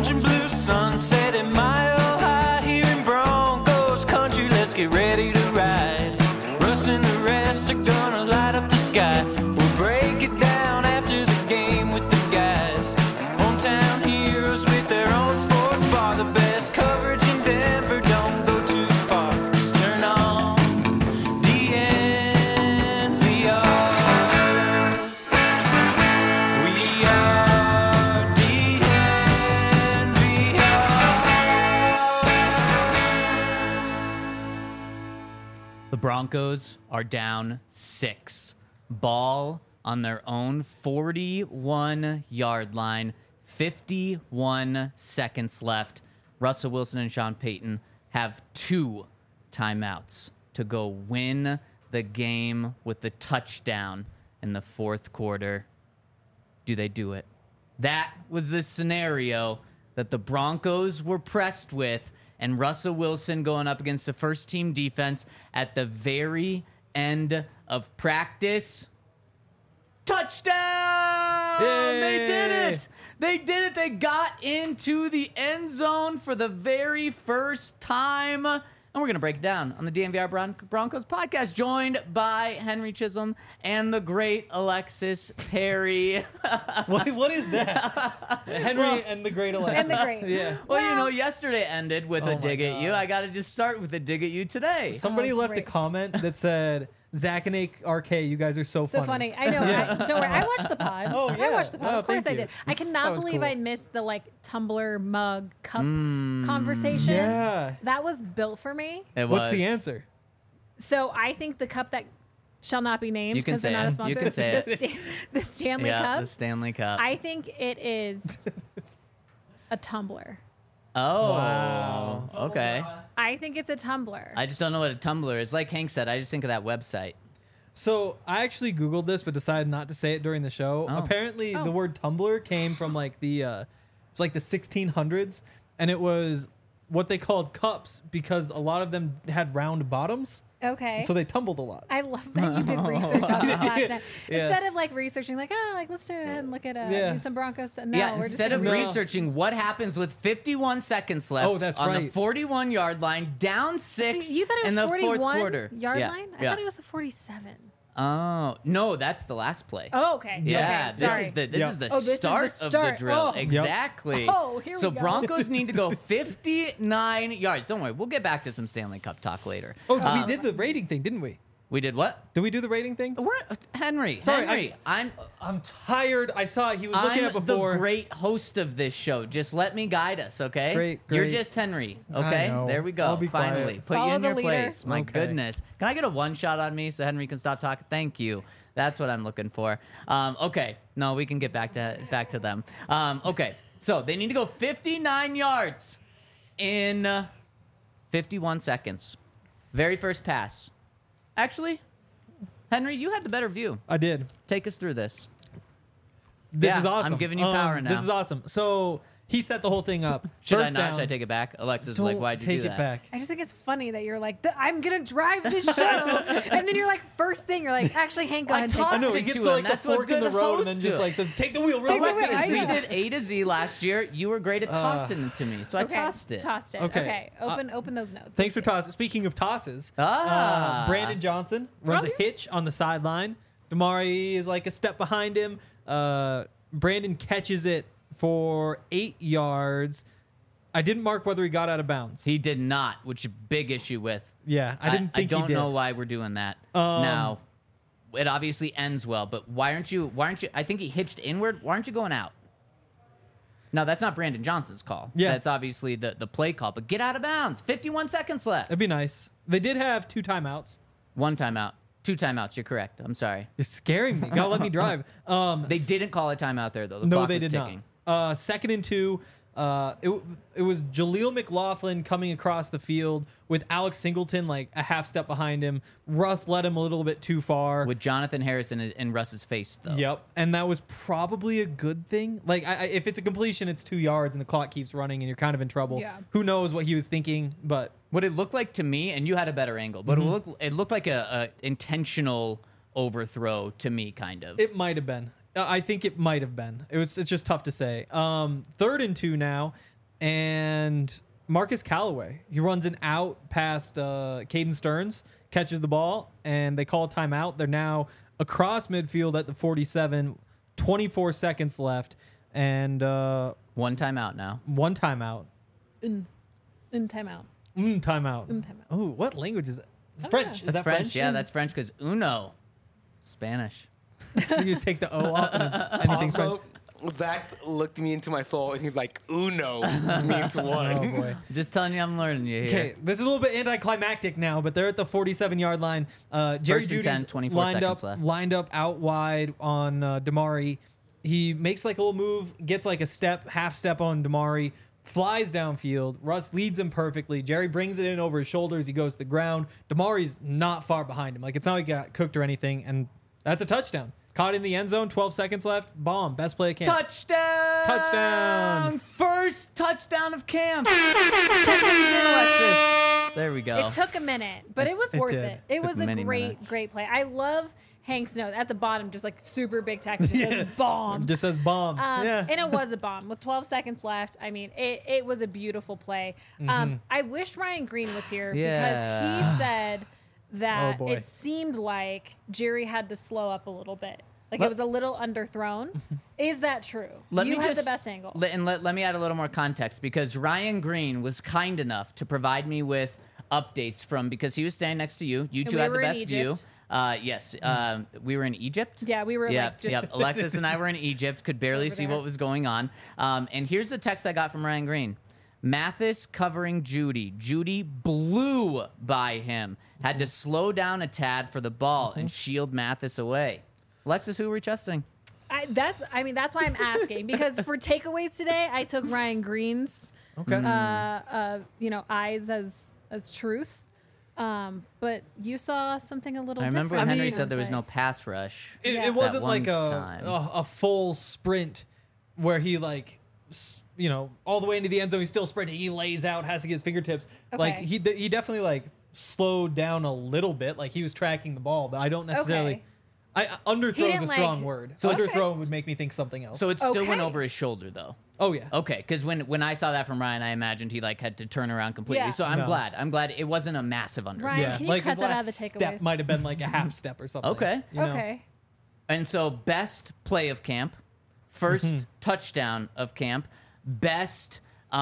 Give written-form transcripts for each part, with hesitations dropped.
orange and blue sunset at Mile High here in Broncos country. Let's get ready to ride. Russ and the rest are gonna light up the sky. We'll break it down after the game with the guys. Hometown heroes with their own sports bar. The best coverage in Denver, don't go too far. Just turn on DNVR. We are DNVR. The Broncos are down 6. Ball on their own 41-yard line. 51 seconds left. Russell Wilson and Sean Payton have 2 timeouts to go win the game with the touchdown in the fourth quarter. Do they do it? That was the scenario that the Broncos were pressed with, and Russell Wilson going up against the first-team defense at the very end of practice. Touchdown! Yay! They did it! They did it! They got into the end zone for the very first time. And we're going to break it down on the DNVR Broncos podcast, joined by Henry Chisholm and the great Alexis Perry. What is that? Henry and the great Alexa. And the great. Yeah. Well, yesterday ended with Oh a my dig at God. you. I got to just start with a dig at you today. Somebody left a great. comment that said, Zach and RK, you guys are so So funny. I know. Don't worry. I watched the pod. Oh, I yeah. watched the pod. Oh, Of course I thank you. did. I That cannot was believe cool. I missed the Tumbler mug cup conversation. Yeah. That was built for me. It What's was. the answer? So I think the cup that shall not be named You can because they're say not a it. sponsor. You can say the Stanley Yeah, Cup. the Stanley Cup. I think it is a tumbler. Oh, Wow. okay. I think it's a tumbler. I just don't know what a Tumblr is. Like Hank said, I just think of that website. So I actually Googled this, but decided not to say it during the show. Oh. Apparently, Oh. the word tumbler came from it's like the 1600s, and it was what they called cups because a lot of them had round bottoms, Okay. so they tumbled a lot. I love that you did research on this last night. Yeah. Instead of researching let's go ahead and look at Yeah. some Broncos. No, Yeah, we're instead just of gonna researching what happens with 51 seconds left Oh, that's on the right. 41-yard line, down 6 See, you thought it was in the 41 fourth quarter. yard Yeah, line? I yeah. thought it was the 47. Oh, no, that's the last play. Oh, okay. Yeah, okay, this sorry. is the Yep. is the Oh, this is the start of the start. drill. Oh. Exactly. Oh, here we so go. Broncos need to go 59 yards. Don't worry, we'll get back to some Stanley Cup talk later. Oh, we did the rating thing, didn't we? We did what? Did we do the rating thing? We're Henry. Sorry, Henry, I'm tired. I saw he was looking at before. the great host of this show. Just let me guide us, okay? Great, You're great. just Henry, I okay? know. There we go. I'll be Finally, quiet. put you Follow in the your leader. place. My Okay. goodness. Can I get a one shot on me so Henry can stop talking? Thank you. That's what I'm looking for. Okay. No, we can get back to them. Okay. So they need to go 59 yards in 51 seconds. Very first pass. Actually, Henry, you had the better view. I did. Take us through this. This Yeah, is awesome. I'm giving you power now. This is awesome. So he set the whole thing up. Should First I not? down. Should I take it back? Alexis is Don't like, why'd you take do it that? back. I just think it's funny that you're like, I'm going to drive this show. And then you're like, first thing, you're like, actually, Hank, go I ahead and take tossed I know it he gets to to him. like the That's what fork in the good road and then hosts just do. like says, "Take the wheel real Take the quick." wheel. Alexis, I we know. did A to Z last year. You were great at tossing it to me, so I Okay, tossed it. Tossed it. Okay. Okay. Open those notes. Thanks for Let's tossing. Speaking of tosses, Ah. Brandon Johnson runs a From hitch on the sideline. Damari is like a step behind him. Brandon catches it for 8 yards. I didn't mark whether he got out of bounds. He did not, which is a big issue with. Yeah, I didn't think I don't he did. know why we're doing that. Now, it obviously ends well, but why aren't you? I think he hitched inward. Why aren't you going out? No, that's not Brandon Johnson's call. Yeah. That's obviously the play call. But get out of bounds. 51 seconds left. That'd be nice. They did have 2 timeouts. 1 timeout. 2 timeouts. You're correct. I'm sorry. You're scaring me. Gotta let me drive. They didn't call a timeout there, though. The No, clock they was did ticking. not. 2nd and 2. It was Jaleel McLaughlin coming across the field with Alex Singleton like a half step behind him. Russ led him a little bit too far. With Jonathan Harrison in Russ's face, though. Yep, and that was probably a good thing. Like, if it's a completion, it's 2 yards, and the clock keeps running, and you're kind of in trouble. Yeah. Who knows what he was thinking? But What it looked like to me, and you had a better angle, but it looked like a intentional overthrow to me, kind of. it might have been. I think it might have been. It's just tough to say. 3rd and 2 now. and Marcus Callaway, he runs an out past Caden Stearns, catches the ball, and they call a timeout. They're now across midfield at the 47, 24 seconds left, and One timeout now. one timeout. In timeout. Timeout. Oh, what language is that? It's French. Is That's that French. Yeah, that's French because uno, Spanish. So you just take the O off and anything's Also, French. Zach looked me into my soul and he's like, Uno means one. Oh, boy. Just telling you, I'm learning you here. Okay, this is a little bit anticlimactic now, but they're at the 47-yard line. Jerry First and Judy's 10, 24 seconds left. lined up out wide on Damari. He makes like a little move, gets like a half step on Damari, flies downfield. Russ leads him perfectly. Jerry brings it in over his shoulders. He goes to the ground. Damari's not far behind him. Like, it's not like he got cooked or anything, and that's a touchdown. Caught in the end zone, 12 seconds left. Bomb. Best play of camp. Touchdown! Touchdown! First touchdown of camp. 10 days in, Alexis. There we go. It took a minute, but it was worth did. it. It was a many great, minutes. great play. I love Hank's note at the bottom, just like super big text. It says bomb. Just says bomb. And it was a bomb with 12 seconds left. I mean, it was a beautiful play. I wish Ryan Green was here Yeah. because he said that Oh, boy. it seemed like Jerry had to slow up a little bit. Like it was a little underthrown. Is that true? You had the best angle. Let me add a little more context because Ryan Green was kind enough to provide me with updates because he was standing next to you. You two we had the were in best view. Egypt. Yes. We were in Egypt. Yeah, we were like just Yep. Alexis and I were in Egypt, could barely Over see there. what was going on. And here's the text I got from Ryan Green. Mathis covering Judy. Judy blew by him. Had to slow down a tad for the ball and shield Mathis away. Alexis, who were we trusting? that's why I'm asking because for takeaways today, I took Ryan Green's Okay. eyes as truth. But you saw something a little I remember different. Henry mean- said there was no pass rush. It, Yeah. it wasn't That one like time. a full sprint where he like all the way into the end zone. He's still sprinting. He lays out, has to get his fingertips. Like Okay. he definitely like slowed down a little bit. Like he was tracking the ball, but I don't necessarily. Okay. Underthrow is didn't, a strong like- word. So So it's- underthrow would make me think something else. So it still went Okay. over his shoulder, though. oh yeah. Okay, because when I saw that from Ryan, I imagined he like had to turn around completely. Yeah. So I'm No. glad. I'm glad it wasn't a massive underthrow. Ryan, Yeah, can you like cut his that out last of the step takeaways? might have been like a half step or something. Okay. you know? Okay. And so best play of camp, first touchdown of camp, best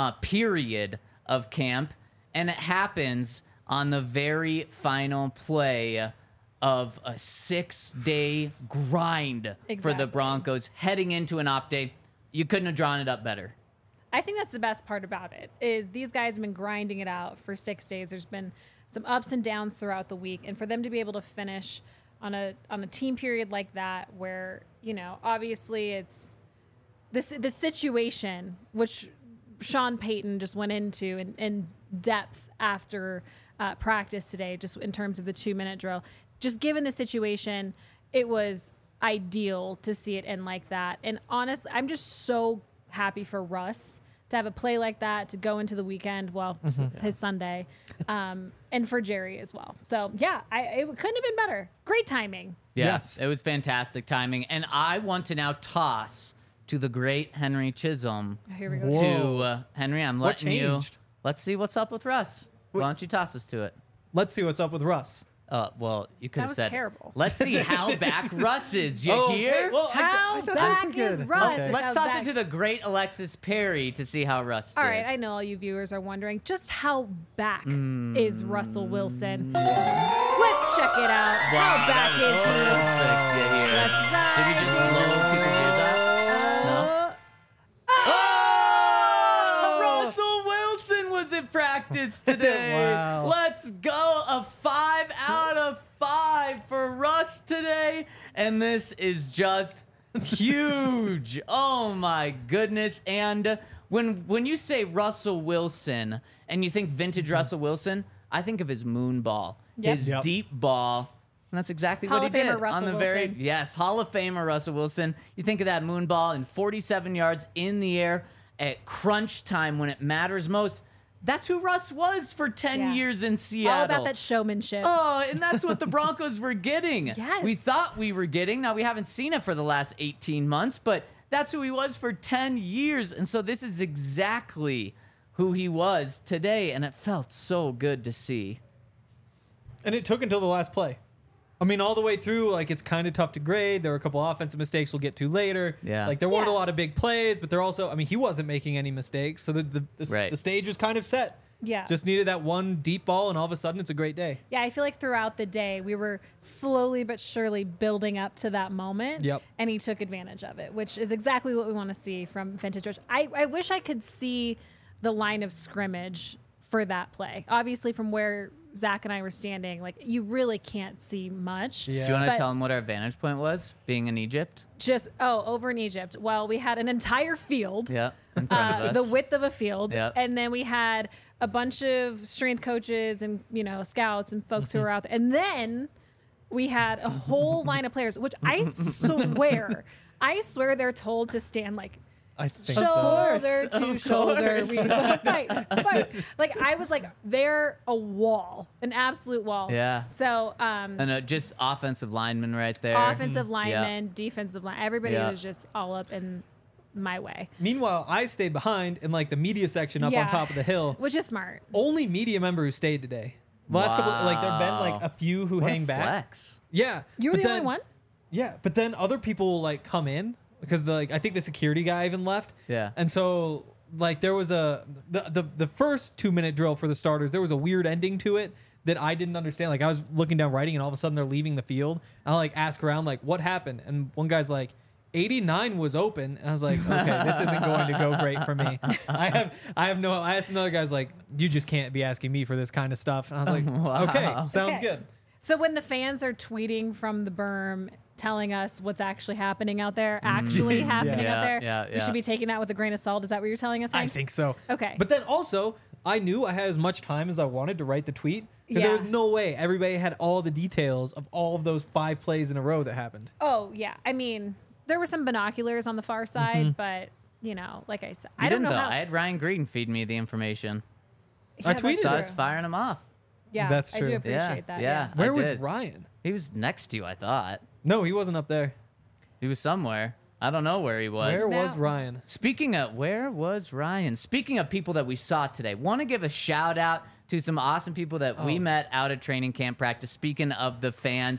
period of camp, and it happens on the very final play of a 6-day grind for Exactly. the Broncos heading into an off day. You couldn't have drawn it up better. I think that's the best part about it is these guys have been grinding it out for 6 days. There's been some ups and downs throughout the week, and for them to be able to finish on a team period like that, where obviously it's the situation which Sean Payton just went into in depth after practice today, just in terms of the 2-minute drill. Just given the situation, it was ideal to see it end like that. And honestly, I'm just so happy for Russ to have a play like that, to go into the weekend, it's his Sunday, and for Jerry as well. So, yeah, it couldn't have been better. Great timing. Yes. It was fantastic timing. And I want to now toss to the great Henry Chisholm. Here we go. Whoa. To Henry, I'm What letting you. changed? Let's see what's up with Russ. Why don't you toss us to it? Let's see what's up with Russ. Well, you could That have was said. terrible. Let's see how back Russ is. You hear? Well, How I thought back that was is good. Russ? Okay. Is Let's how toss Zach- it to the great Alexis Perry to see how Russ did. All right, I know all you viewers are wondering just how back is Russell Wilson. Let's check it out. How back is he? That's right. Did we just blow people's ears out? No. Oh! Russell Wilson was at practice today. Wow. Let's go. A 5 out of 5 for Russ today. And this is just huge. Oh my goodness. And when you say Russell Wilson and you think vintage Russell Wilson, I think of his moon ball, Yep. his Yep. deep ball. And that's exactly Hall what he of Famer did Russell on the very Wilson. yes, Hall of Famer Russell Wilson. You think of that moon ball in 47 yards in the air at crunch time when it matters most. That's who Russ was for 10 Yeah. years in Seattle. All about that showmanship. Oh, and that's what the Broncos were getting. Yes. We thought we were getting. Now, we haven't seen it for the last 18 months, but that's who he was for 10 years. And so this is exactly who he was today, and it felt so good to see. And it took until the last play. I mean, all the way through, like, it's kind of tough to grade. There were a couple offensive mistakes we'll get to later. Yeah. Like, there weren't a Yeah. lot of big plays, but there also, I mean, he wasn't making any mistakes. So Right. the stage was kind of set. Yeah. Just needed that one deep ball, and all of a sudden, it's a great day. Yeah, I feel like throughout the day, we were slowly but surely building up to that moment. Yep. And he took advantage of it, which is exactly what we want to see from Vintage George. I wish I could see the line of scrimmage for that play. Obviously, from where Zach and I were standing, like, you really can't see much. Yeah. Do you want to But- tell him what our vantage point was, being in Egypt? Just, over in Egypt. Well, we had an entire field. Yeah, in front of us. The width of a field. Yep. And then we had a bunch of strength coaches and, scouts and folks who were out there. And then we had a whole line of players, which I swear they're told to stand like I think shoulder so. to Of shoulder. course. Fight. Like, I was like, they're a wall, an absolute wall. Yeah. So, And just offensive lineman right there. offensive linemen, defensive line, everybody Yeah. was just all up in my way, Meanwhile, I stayed behind in, like, the media section up on Yeah. top of the hill. which is smart. Only media member who stayed today. The last couple, like, there have been, like, a few who What a hang back. flex. Yeah. You were but the only then- one? Yeah, but then other people will, like, come in because I think the security guy even left. Yeah. And so, like, there was the first 2-minute drill for the starters. There was a weird ending to it that I didn't understand. Like, I was looking down writing, and all of a sudden they're leaving the field. And I, like, ask around, like, what happened? And one guy's like, 89 was open, and I was like, okay, this isn't going to go great for me. I asked another guy's like, you just can't be asking me for this kind of stuff. And I was like, Wow. okay, sounds Okay. good. So when the fans are tweeting from the berm telling us what's actually happening out there, actually happening Yeah, out there, yeah, we yeah. should be taking that with a grain of salt. Is that what you're telling us, I Hank? think so. Okay. But then also, I knew I had as much time as I wanted to write the tweet because Yeah. there was no way everybody had all the details of all of those 5 plays in a row that happened. Oh, yeah. I mean, there were some binoculars on the far side, but, like I said, I don't know though. how. I had Ryan Green feed me the information. I that's tweeted So I true. was firing him off. Yeah, That's I true. do Yeah, appreciate that. yeah. Where I was did. Ryan? He was next to you, I thought. No, he wasn't up there. He was somewhere. I don't know where he was. Where was Now- Ryan? Where was Ryan? Speaking of people that we saw today, want to give a shout out to some awesome people that we met out at training camp practice. Speaking of the fans,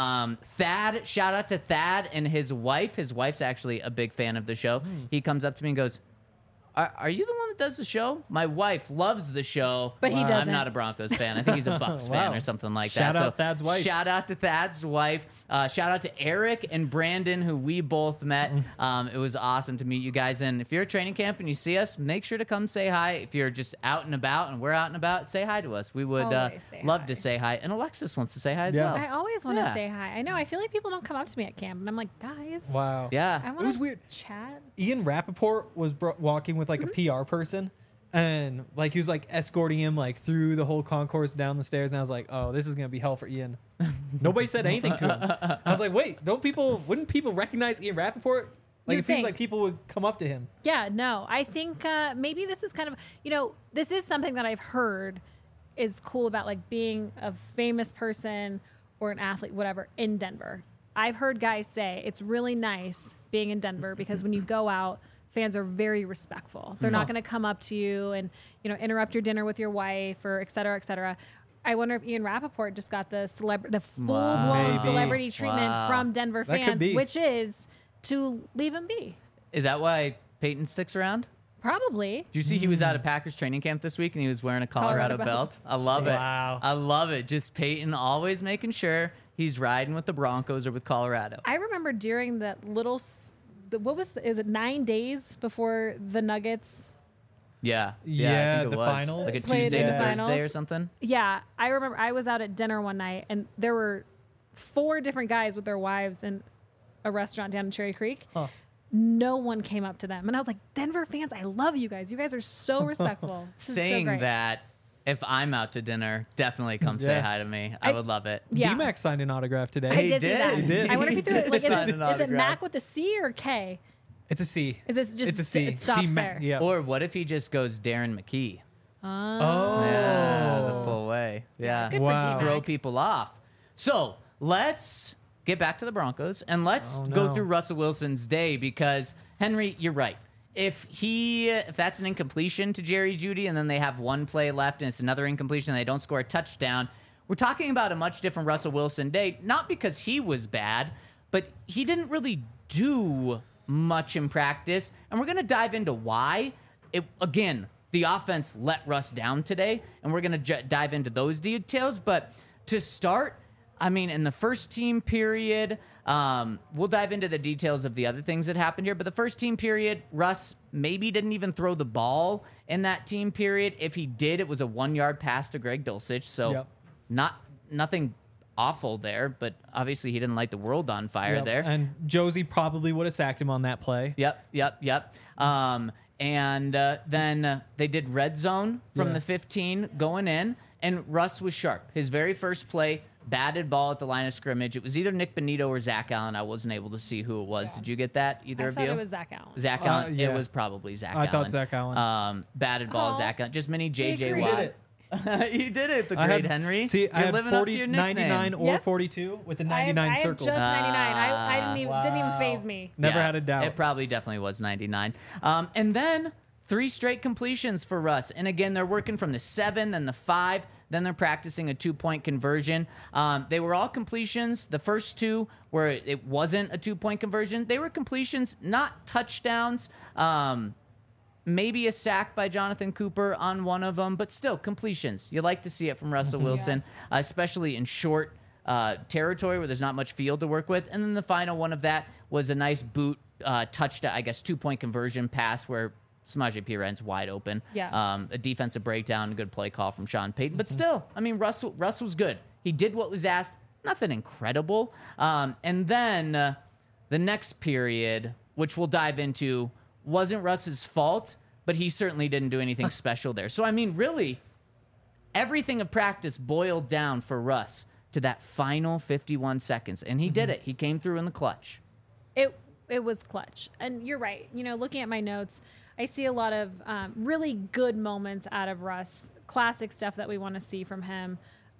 Thad, shout out to Thad and his wife. His wife's actually a big fan of the show. He comes up to me and goes, are you the one that does the show? My wife loves the show. But he I'm doesn't. not a Broncos fan. I think he's a Bucks fan Wow. or something like Shout that. out Thad's wife. Shout out to Thad's wife. Shout out to Eric and Brandon, who we both met. It was awesome to meet you guys. And if you're at training camp and you see us, make sure to come say hi. If you're just out and about and we're out and about, say hi to us. We would Always say love hi. to say hi. And Alexis wants to say hi as Yes. well. I always want to Yeah. say hi. I know. I feel like people don't come up to me at camp, and I'm like, guys, Wow. I Yeah. want was weird. chat. Ian Rappaport was walking with, like, a PR person. And, like, he was, like, escorting him, like, through the whole concourse down the stairs. And I was like, oh, this is going to be hell for Ian. Nobody said anything to him. I was like, wait, wouldn't people recognize Ian Rappaport? Like, You'd it seems think. like people would come up to him. Yeah, no. I think maybe this is kind of, this is something that I've heard is cool about, like, being a famous person or an athlete, whatever, in Denver. I've heard guys say it's really nice being in Denver because when you go out, fans are very respectful. They're not going to come up to you and, interrupt your dinner with your wife or et cetera, et cetera. I wonder if Ian Rappaport just got the full-blown Maybe. celebrity treatment Wow. from Denver That could fans, be. which is to leave him be. Is that why Peyton sticks around? Probably. Did you see he was out at Packers training camp this week and he was wearing a Colorado Colorado belt? I love it. Wow. I love it. Just Peyton always making sure he's riding with the Broncos or with Colorado. I remember during that little, is it 9 days before the Nuggets? Yeah. Yeah, I think it the was. finals. Like a Played Tuesday in to the Thursday finals. or something. Yeah, I remember I was out at dinner one night and there were 4 different guys with their wives in a restaurant down in Cherry Creek. Huh. No one came up to them. And I was like, Denver fans, I love you guys. You guys are so respectful. This is so Saying great. that, if I'm out to dinner, definitely come say Yeah. hi to me. I would love it. Yeah. D-Mac signed an autograph today. I did see did. that. He did. I wonder if he threw it. Like, Signed an is it autograph. Mac with a C or K? It's a C. Is it just It's a C. it stops D-Mac, there? Yeah. Or what if he just goes Darren McKee? Oh. Yeah, the full way. Yeah. Good Wow. for D-Mac. Throw people off. So let's get back to the Broncos and let's Oh, go no. through Russell Wilson's day because, Henry, you're right. if that's an incompletion to Jerry Jeudy, and then they have one play left and it's another incompletion and they don't score a touchdown, we're talking about a much different Russell Wilson day, not because he was bad, but he didn't really do much in practice. And we're going to dive into why. Again, the offense let Russ down today, and we're going to dive into those details. But to start, I mean, in the first team period, we'll dive into the details of the other things that happened here. But the first team period, Russ maybe didn't even throw the ball in that team period. If he did, it was a 1-yard pass to Greg Dulcich. So nothing awful there, but obviously he didn't light the world on fire there. And Josie probably would have sacked him on that play. Yep. And then they did red zone from the 15 going in, and Russ was sharp. His very first play, batted ball at the line of scrimmage. It was either Nick Bonito or Zach Allen. I wasn't able to see who it was. Yeah. Did you get that? Either I of thought you? it was Zach Allen. Zach Allen. Yeah. It was probably Zach I Allen. thought Zach Allen. Batted ball, Oh. Zach Allen. Just mini JJ agreed. Watt. You did it. You did it, the I great had, Henry. See, You're I had living up to 40, your nickname. 99 or Yep. 42 with the I 99 had circled. just 99. I didn't even Wow. phase me. Never had a doubt. It probably definitely was 99. And then 3 straight completions for Russ. And again, they're working from the 7, then the 5, then they're practicing a 2-point conversion. They were all completions. The first 2 where it wasn't a 2-point conversion, they were completions, not touchdowns. Maybe a sack by Jonathan Cooper on one of them, but still completions. You like to see it from Russell Wilson, especially in short territory where there's not much field to work with. And then the final one of that was a nice boot touchdown, I guess 2-point conversion pass where Samaje Perine wide open. Yeah. A defensive breakdown, a good play call from Sean Payton. But still, I mean, Russ was good. He did what was asked. Nothing incredible. And then the next period, which we'll dive into, wasn't Russ's fault, but he certainly didn't do anything special there. So, I mean, really, everything of practice boiled down for Russ to that final 51 seconds. And he did it. He came through in the clutch. It was clutch. And you're right. You know, looking at my notes, I see a lot of really good moments out of Russ, classic stuff that we want to see from him.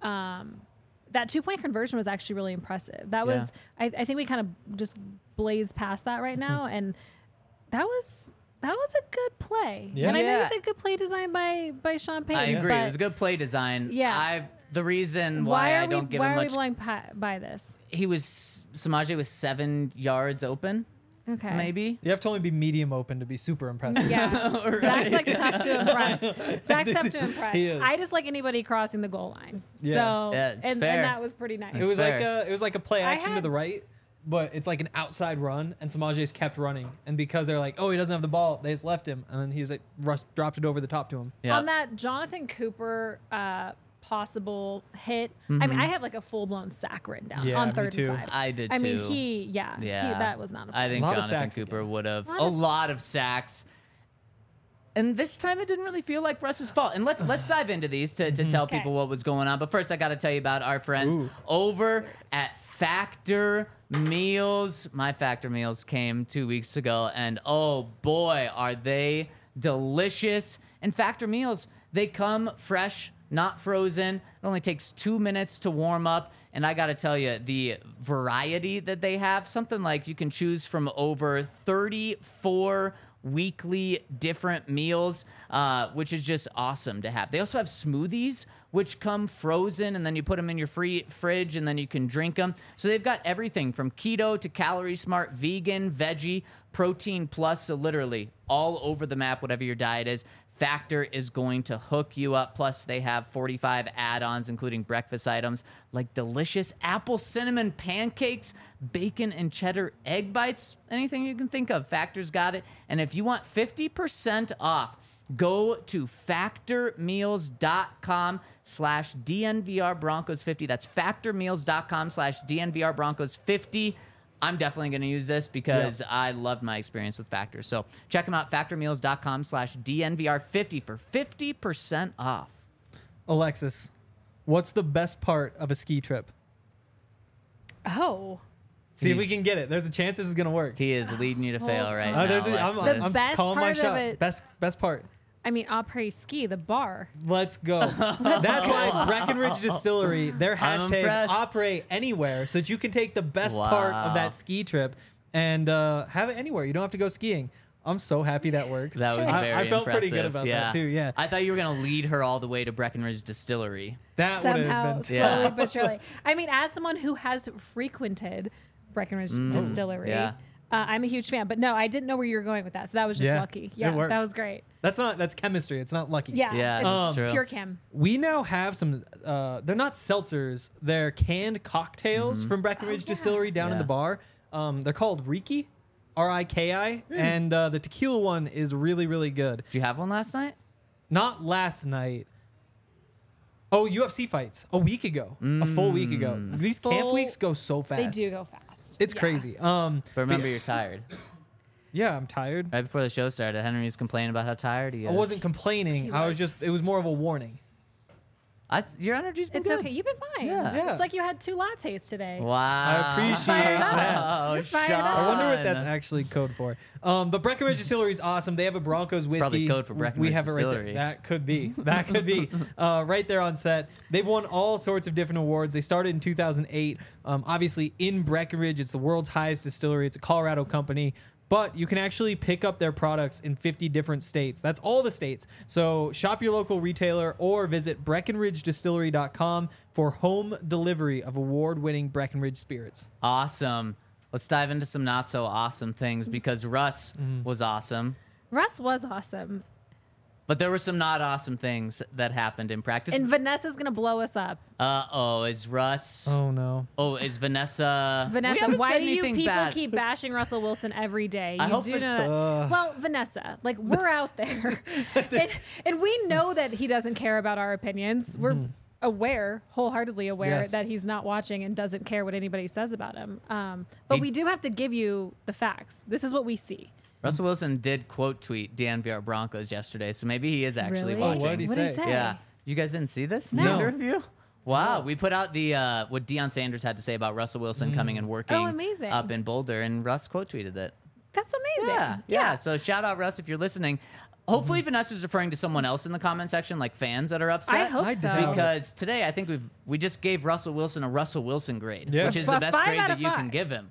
That 2-point conversion was actually really impressive. That was, I think we kind of just blazed past that right now. And that was a good play. Yeah. And I Yeah. think it's a good play design by Sean Payton. I agree. but It was a good play design. Yeah. The reason why I don't give him why are we much, blowing by this? Samaje was 7 yards open, Okay. maybe. You have to only be medium open to be super impressive. Yeah. Zach's like tough to impress. Zach's tough to impress. He is. I just like anybody crossing the goal line. Yeah. So Yeah, it's and fair. that was pretty nice. It was fair. like a play I action to had- the right, but it's like an outside run, and Samaje's kept running. And because they're like, oh, he doesn't have the ball, they just left him, and then he's like, Russ dropped it over the top to him. Yeah. On that Jonathan Cooper possible hit, I mean, I had like a full blown sack written down Yeah, on me 3rd too. and 5. I did I mean, too. that was not a I play. think Lot of Jonathan sacks Cooper again. would have Lot a of lot of sacks. And this time it didn't really feel like Russ's fault. And let's dive into these to tell Okay. people what was going on. But first, I got to tell you about our friends Ooh. over at Factor Meals. My Factor Meals came 2 weeks ago, and oh boy, are they delicious. And Factor Meals, they come fresh, not frozen. It only takes 2 minutes to warm up. And I got to tell you, the variety that they have, something like you can choose from over 34 weekly different meals, which is just awesome to have. They also have smoothies, which come frozen, and then you put them in your fridge, and then you can drink them. So they've got everything from keto to calorie smart, vegan, veggie, protein plus, so literally all over the map, whatever your diet is. Factor is going to hook you up. Plus, they have 45 add-ons, including breakfast items like delicious apple cinnamon pancakes, bacon and cheddar egg bites, anything you can think of. Factor's got it. And if you want 50% off, go to factormeals.com/DNVR Broncos 50. That's factormeals.com/DNVR Broncos 50. I'm definitely going to use this because I loved my experience with Factor. So check them out, factormeals.com/DNVR 50 for 50% off. Alexis, what's the best part of a ski trip? Oh. See if we He's- can get it. There's a chance this is gonna work. He is leading you to fail right now. I'm Alexis. best calling my part of shot. it- Best part. I mean, après ski, the bar. Let's go. That's why Breckenridge Distillery, their I'm hashtag impressed. operate anywhere, so that you can take the best part Wow. of that ski trip and have it anywhere. You don't have to go skiing. I'm so happy that worked. That was very I felt pretty good impressive. about that too. Yeah, I thought you were going to lead her all the way to Breckenridge Distillery. that would have Somehow, been. slowly Yeah. but surely. I mean, as someone who has frequented Breckenridge Distillery, Yeah. I'm a huge fan. But no, I didn't know where you were going with that. So that was just Yeah, lucky. it Yeah, worked. that was great. That's chemistry. It's not lucky. Yeah, Yeah, it's that's true. pure chem. We now have some. They're not seltzers. They're canned cocktails from Breckenridge Distillery down in Yeah. the bar. They're called Riki, Riki, and the tequila one is really, really good. Did you have one last night? Not last night. Oh, UFC fights a week ago, a full week ago. These camp Full- weeks go so fast. They do go fast. It's Yeah. crazy. But remember, you're tired. Yeah, I'm tired. Right before the show started, Henry was complaining about how tired he is. I wasn't complaining. He I was was. just. It was more of a warning. Your energy's been It's good. okay. You've been fine. Yeah. It's like you had 2 lattes today. Wow. I appreciate Fired up. that. You're fired up. I wonder what Sean. that's actually code for. But Breckenridge Distillery is awesome. They have a Broncos whiskey. probably code for We Breckenridge have it right Distillery. there. That could be. That could be. Right there on set. They've won all sorts of different awards. They started in 2008. Obviously, in Breckenridge, it's the world's highest distillery. It's a Colorado company. But you can actually pick up their products in 50 different states. That's all the states. So shop your local retailer or visit BreckenridgeDistillery.com for home delivery of award-winning Breckenridge spirits. Awesome. Let's dive into some not so awesome things because Russ was awesome. Russ was awesome. But there were some not awesome things that happened in practice. And Vanessa's going to blow us up. Is Russ? Oh, no. Oh, is Vanessa? We Vanessa, haven't why said do you anything people bad. keep bashing Russell Wilson every day? I You hope do it- know that. Well, Vanessa, like we're out there, and we know that he doesn't care about our opinions. We're wholeheartedly aware Yes. that he's not watching and doesn't care what anybody says about him. But we do have to give you the facts. This is what we see. Russell Wilson did quote tweet DNVR Broncos yesterday, so maybe he is actually Really? watching. what'd he What did he say? say? Yeah. You guys didn't see this? No. Neither of you? Wow. We put out the what Deion Sanders had to say about Russell Wilson coming and working Oh, amazing. up in Boulder, and Russ quote tweeted it. That's amazing. Yeah. So shout out Russ if you're listening. Hopefully Vanessa's referring to someone else in the comment section, like fans that are upset. I hope I so. doubt it. Because today I think we just gave Russell Wilson a Russell Wilson grade, Yeah. which is A the best 5 grade out that of you can 5. give him.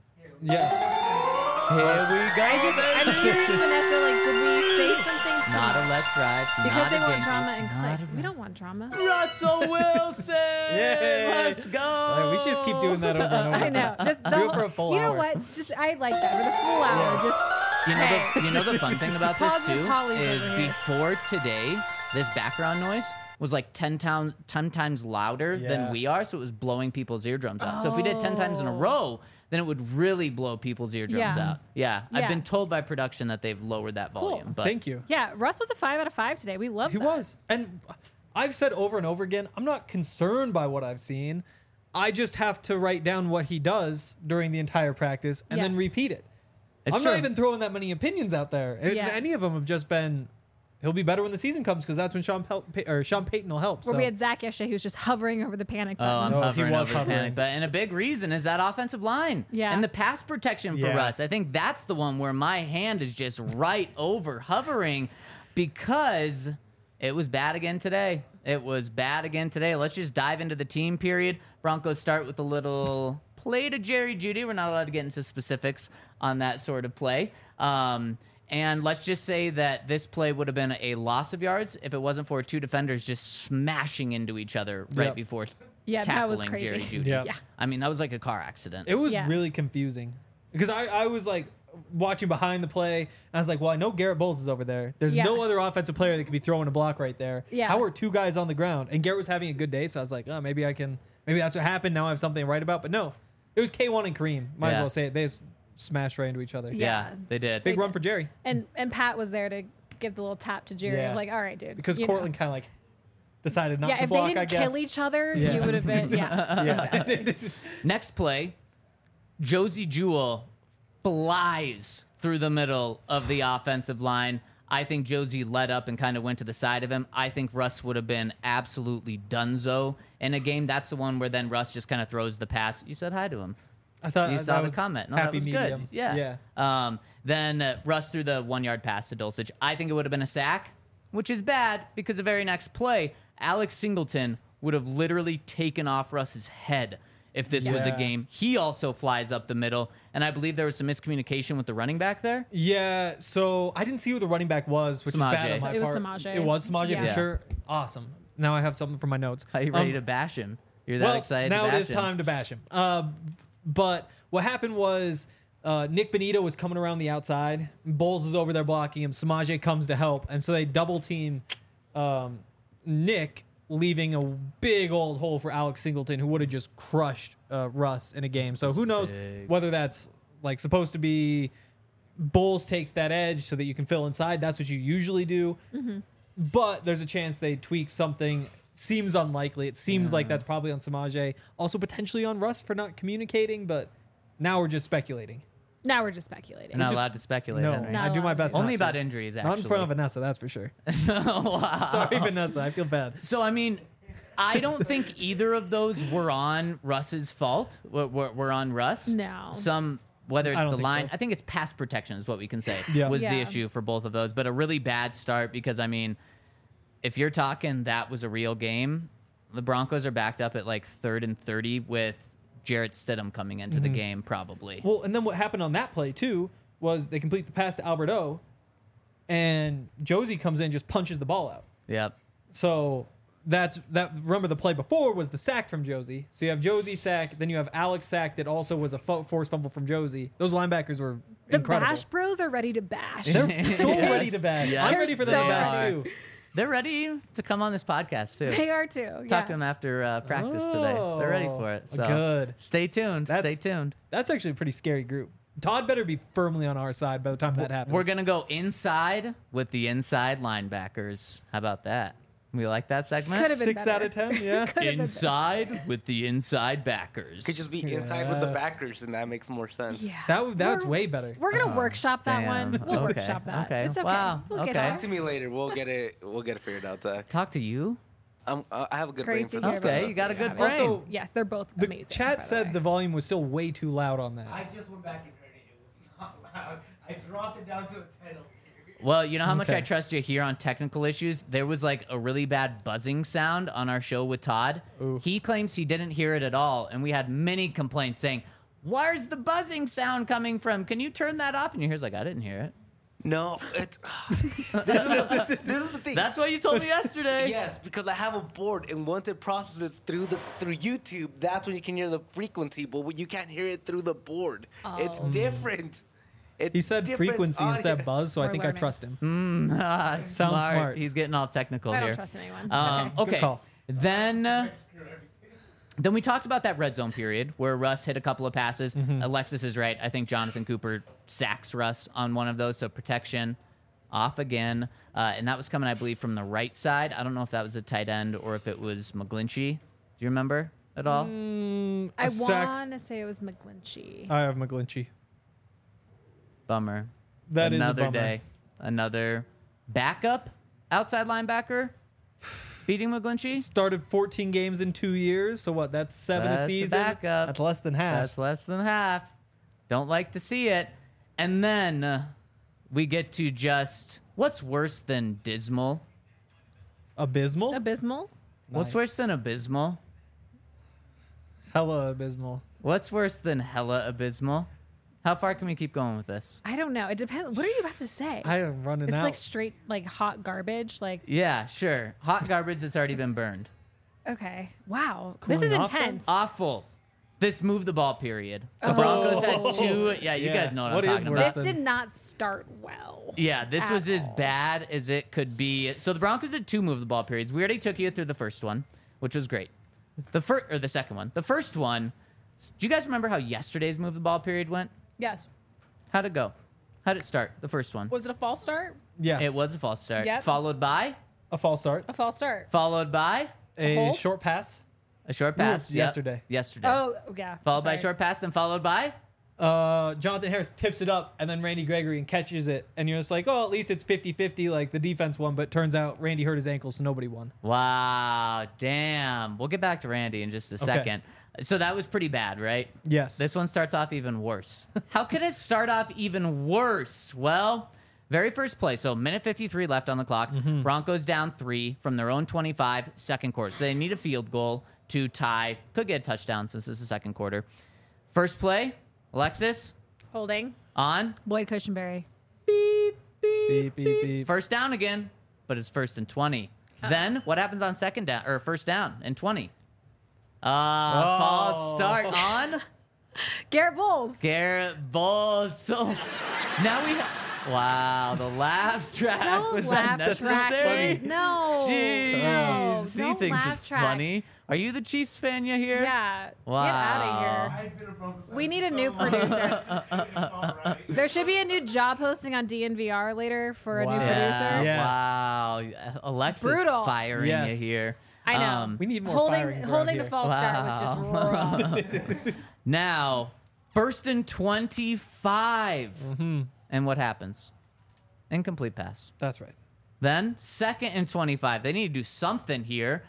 Yeah. Here we go. I'm curious, Vanessa. Like, did we say something? To Not a let's ride. because not they a want dinky, drama and not clicks. a- We don't want drama. Russell Wilson. Yay. Let's go. All right, we should just keep doing that over and over. I know. Just the Do it whole, for a full you know hour. what? Just I like that for the full hour. Yeah. Just You know the fun thing about this Pause with too Polly's is over here. before today, this background noise was like 10 times louder Yeah. than we are, so it was blowing people's eardrums out. So if we did 10 times in a row, then it would really blow people's eardrums Yeah. out. Yeah. I've Yeah. been told by production that they've lowered that Cool. volume. But Thank you. yeah. Russ was a 5 out of 5 today. We love He that. was. And I've said over and over again, I'm not concerned by what I've seen. I just have to write down what he does during the entire practice and Yeah. then repeat it. It's I'm true. not even throwing that many opinions out there. And Yeah. any of them have just been, he'll be better when the season comes because that's when Sean Payton will help. Where So. we had Zach yesterday who was just hovering over the panic Oh, I'm button. No, he hovering was over hovering. panic. But and a big reason is that offensive line. Yeah. And the pass protection for Yeah. Russ. I think that's the one where my hand is just right over hovering because it was bad again today. It was bad again today. Let's just dive into the team period. Broncos start with a little play to Jerry Jeudy. We're not allowed to get into specifics on that sort of play. And let's just say that this play would have been a loss of yards if it wasn't for 2 defenders just smashing into each other right Yep. before Yeah, that was tackling Jerry crazy. Jeudy. Yeah. Yeah. I mean, that was like a car accident. It was Yeah. really confusing because I was like watching behind the play and I was like, well, I know Garrett Bowles is over there. There's Yeah. no other offensive player that could be throwing a block right there. Yeah. How are 2 guys on the ground? And Garrett was having a good day, so I was like, oh, maybe that's what happened. Now I have something to write about. But no, it was K1 and Kareem. Might as Yeah. well say it. They just smashed right into each other. yeah, Yeah. they did. Big They run did. for Jerry And Pat was there to give the little tap to Jerry. Yeah. Like, all right, dude. because you know. Cortland kind of like decided not Yeah, to if block, they I didn't guess. kill each other, Yeah. you would have been. Yeah. Yeah. Next play, Josie Jewell flies through the middle of the offensive line. I think Josie led up and kind of went to the side of him. I think Russ would have been absolutely donezo in a game. That's the one where then Russ just kind of throws the pass. You said hi to him. I thought You that saw the was comment. No, happy that was medium. good. Yeah. Yeah. Then Russ threw the 1-yard pass to Dulcich. I think it would have been a sack, which is bad because the very next play, Alex Singleton would have literally taken off Russ's head if this was a Yeah. game. He also flies up the middle, and I believe there was some miscommunication with the running back there. Yeah, so I didn't see who the running back was, which is bad Samaje. on my It was part. Samaje. It was Samaje Yeah. for sure. Awesome. Now I have something from my notes. Are you ready to bash him? You're that well, excited now to bash it is him? time to bash him. But what happened was Nick Benito was coming around the outside. Bowles is over there blocking him. Samaje comes to help, and so they double team Nick, leaving a big old hole for Alex Singleton, who would have just crushed Russ in a game. So who knows whether that's like supposed to be Bowles takes that edge so that you can fill inside. That's what you usually do. But there's a chance they tweak something. Seems unlikely. It seems like that's probably on Samaje. Also potentially on Russ for not communicating, but now we're just speculating. Now we're just speculating. You're not just- allowed to speculate. No, Henry. Not I do my allowed best. to. Only not to. about injuries, actually. Not in front of Vanessa, that's for sure. Wow. Sorry, Vanessa. I feel bad. So, I mean, I don't think either of those were on Russ's fault. Were on Russ. No. Whether I it's don't the think line, so. I think it's pass protection is what we can say Yeah. was the Yeah. issue for both of those. But a really bad start because, I mean, if you're talking that was a real game, the Broncos are backed up at like 3rd and 30 with Jarrett Stidham coming into the game probably. Well, and then what happened on that play too was they complete the pass to Albert O, and Josie comes in and just punches the ball out. Yep. So that's that. Remember the play before was the sack from Josie. So you have Josie sack, then you have Alex sack that also was a forced fumble from Josie. Those linebackers were the incredible. Bash Bros are ready to bash. They're so Yes. ready to bash. Yes, I'm ready for them they to bash are. too. They're ready to come on this podcast too. They are too. Talk yeah. to them after practice today. They're ready for it. So good. Stay tuned. That's- Stay tuned. That's actually a pretty scary group. Todd better be firmly on our side by the time that happens. We're gonna go inside with the inside linebackers. How about that? We like that segment. Could've been 6 out of better. 10. Yeah. Could've been better. Inside with the inside backers. Could just be inside with the backers, and that makes more sense. Yeah. That's We're- way better. We're gonna workshop that damn. one. We'll Okay. workshop that. Okay. It's okay. Wow. We'll get Okay. it. Talk to me later. We'll get it. We'll get it figured out, Zach. Talk to you. I have a good Great brain to for hear this. about Okay, it. you got a good Yeah. brain. Also, Yes, they're both The amazing. by chat the said way. the volume was still way too loud on that. I just went back and heard it. It was not loud. I dropped it down to a 10 over here. Well, you know how much Okay. I trust you here on technical issues? There was like a really bad buzzing sound on our show with Todd. Ooh. He claims he didn't hear it at all, and we had many complaints saying, "Where's the buzzing sound coming from? Can you turn that off?" And he hears like, "I didn't hear it." No, it's this is the thing. That's what you told me yesterday. Yes, because I have a board, and once it processes through YouTube, that's when you can hear the frequency. But you can't hear it through the board. It's different. It's He said different frequency audio. instead of buzz, so I We're think I learning. trust him. Sounds smart. He's getting all technical I here. don't trust anyone. Okay. Good call. Then we talked about that red zone period where Russ hit a couple of passes. Mm-hmm. Alexis is right. I think Jonathan Cooper sacks Russ on one of those, so protection off again. And that was coming, I believe, from the right side. I don't know if that was a tight end or if it was McGlinchey. Do you remember at all? I A sack. want to say it was McGlinchey. I have McGlinchey. Bummer. That is a Another bummer. day. Another backup outside linebacker beating McGlinchey. Started 14 games in 2 years, so what? That's 7 That's a a season. backup. That's less than half. That's less than half. Don't like to see it. And then we get to just what's worse than dismal? abysmal. Abysmal. What's Nice. worse than abysmal? Hella abysmal. What's worse than hella abysmal? How far can we keep going with this? I don't know. It depends. What are you about to say? I am running it's out. like straight, like hot garbage. Like, Yeah, sure. Hot garbage that's already been burned. okay, wow, Cooling this is off then? intense. Awful. This move the ball period. The Broncos had two. Yeah, you Yeah. guys know what What I'm is talking worse about. This than- did not start well. Yeah, this was at as all. bad as it could be. So the Broncos had two move the ball periods. We already took you through the first one, which was great. The first or the second one. The first one. Do you guys remember how yesterday's move the ball period went? Yes. How'd it go? How'd it start? The first one. Was it a false start? yes. It was a false start. Yep. Followed by a false start. A false start. followed by A hold? short pass. a short pass. Ooh, Yep. yesterday. Yesterday. Oh, yeah. Followed by a sorry. short pass, then followed by Jonathan Harris tips it up, and then Randy Gregory and catches it. And you're just like, oh, at least it's 50-50, like the defense won. But turns out Randy hurt his ankle, so nobody won. wow, damn. We'll get back to Randy in just a second. So that was pretty bad, right? Yes. This one starts off even worse. How can it start off even worse? Well, very first play. So minute 53 left on the clock. Broncos down 3 from their own 25, second quarter. So they need a field goal to tie. Could get a touchdown since this is the second quarter. First play, Alexis, Holding. on. Lloyd Cushenberry. Beep, beep. First down again, but it's 1st and 20. Then what happens on second down or first down and 20? False start on Garrett Bowles. Garrett Bowles. So now we wow, the laugh track Don't was laugh unnecessary. track. No. Jeez, No. he Don't thinks laugh it's track. funny. Are you the Chiefs fan you here? Yeah. Wow. Get out of here. I've been a Broncos fan We need for a so new long. producer. It's all right. There should be a new job posting on DNVR later for a new Wow. producer. Yes. Wow. Alexis Brutal. firing Yes. you here. I know. We need more holding firings around holding here. the false start was just rough. Now, 1st and 25. And what happens? Incomplete pass. That's right. Then 2nd and 25. They need to do something here.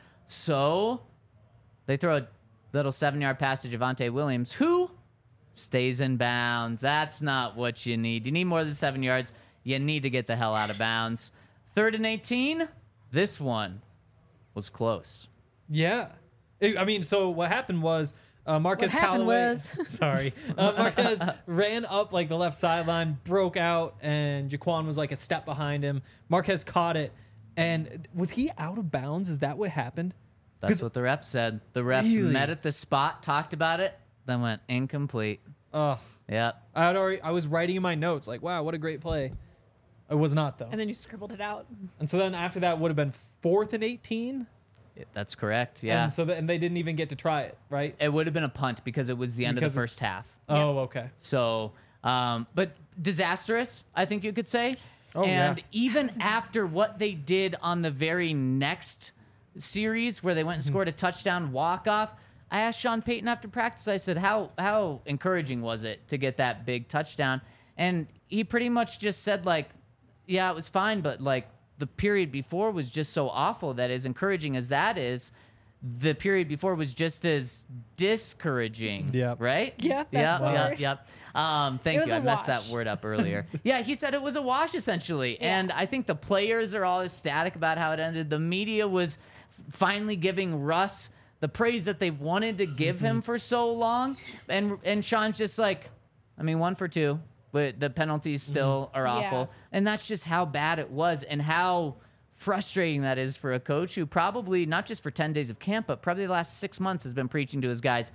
So they throw a little 7-yard pass to Javonte Williams, who stays in bounds. That's not what you need. You need more than 7 yards. You need to get the hell out of bounds. 3rd and 18. This one was close. Yeah. I mean, so what happened was Marquez What happened Callaway. was- Sorry. Marquez ran up like the left sideline, broke out, and Jaquan was like a step behind him. Marquez caught it. And was he out of bounds? Is that what happened? That's what the ref said. The refs Really? met at the spot, talked about it, then went incomplete. Ugh. Yep. I was writing in my notes like, wow, what a great play. It was not though. And then you scribbled it out. And so then after that would have been 4th and 18. That's correct. Yeah. And they didn't even get to try it, right? It would have been a punt because it was the end Because of the first half. Oh, okay. So, but disastrous, I think you could say. Oh, and yeah. even after what they did on the very next series where they went and scored a touchdown walk-off, I asked Sean Payton after practice, I said, how encouraging was it to get that big touchdown? And he pretty much just said, like, yeah, it was fine, but, like, the period before was just so awful that as encouraging as that is, the period before was just as discouraging. Yep. Right? Yep, that's the word. Yep. It Thank was you. I a messed wash. that word up earlier. Yeah, he said it was a wash essentially. And I think the players are all ecstatic about how it ended. The media was finally giving Russ the praise that they've wanted to give him for so long. And Sean's just like, I mean, 1 for 2, but the penalties still are awful. Yeah. And that's just how bad it was and how frustrating that is for a coach who probably, not just for 10 days of camp, but probably the last 6 months has been preaching to his guys,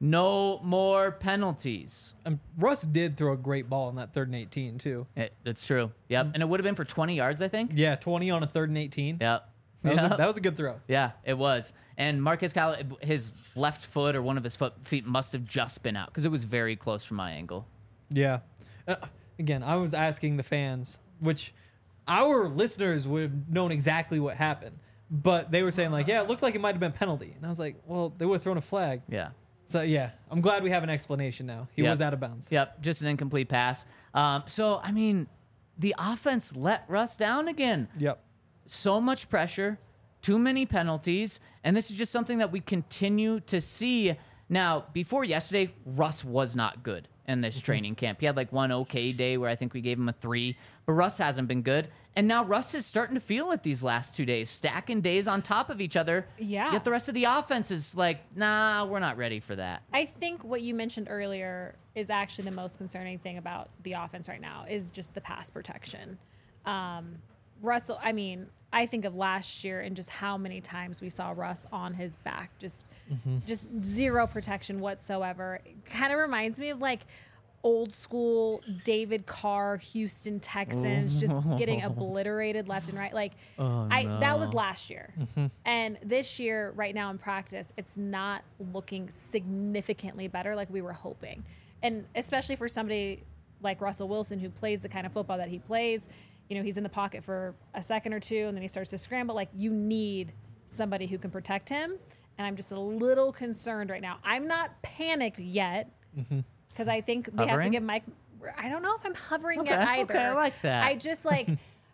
no more penalties. Russ did throw a great ball on that 3rd and 18 too. That's true. Yep. And it would have been for 20 yards, I think. Yeah, 20 on a 3rd and 18. Yep. That was a good throw. Yeah, it was. And Marquez Callaway, his left foot or one of his feet must have just been out because it was very close from my angle. Yeah. Again, I was asking the fans, which our listeners would have known exactly what happened, but they were saying like, yeah, it looked like it might have been penalty. And I was like, well, they would have thrown a flag. Yeah. So yeah, I'm glad we have an explanation now. He Yep. was out of bounds. Yep, just an incomplete pass. So, I mean, the offense let Russ down again. Yep. So much pressure, too many penalties, and this is just something that we continue to see. Now, before yesterday, Russ was not good in this training camp. He had like one okay day where I think we gave him a 3, but Russ hasn't been good. And now Russ is starting to feel it these last 2 days, stacking days on top of each other. Yeah. Yet the rest of the offense is like, nah, we're not ready for that. I think what you mentioned earlier is actually the most concerning thing about the offense right now is just the pass protection. Russell, I mean, I think of last year and just how many times we saw Russ on his back, just zero protection whatsoever. It kind of reminds me of like old school David Carr, Houston Texans, just getting obliterated left and right. Like that was last year. And this year, right now in practice, it's not looking significantly better like we were hoping. And especially for somebody like Russell Wilson, who plays the kind of football that he plays, you know, he's in the pocket for a second or two and then he starts to scramble. Like, you need somebody who can protect him. And I'm just a little concerned right now. I'm not panicked yet because I think we have to Hovering? give Mike. I don't know if I'm hovering Okay, yet either. okay, I like that. I just like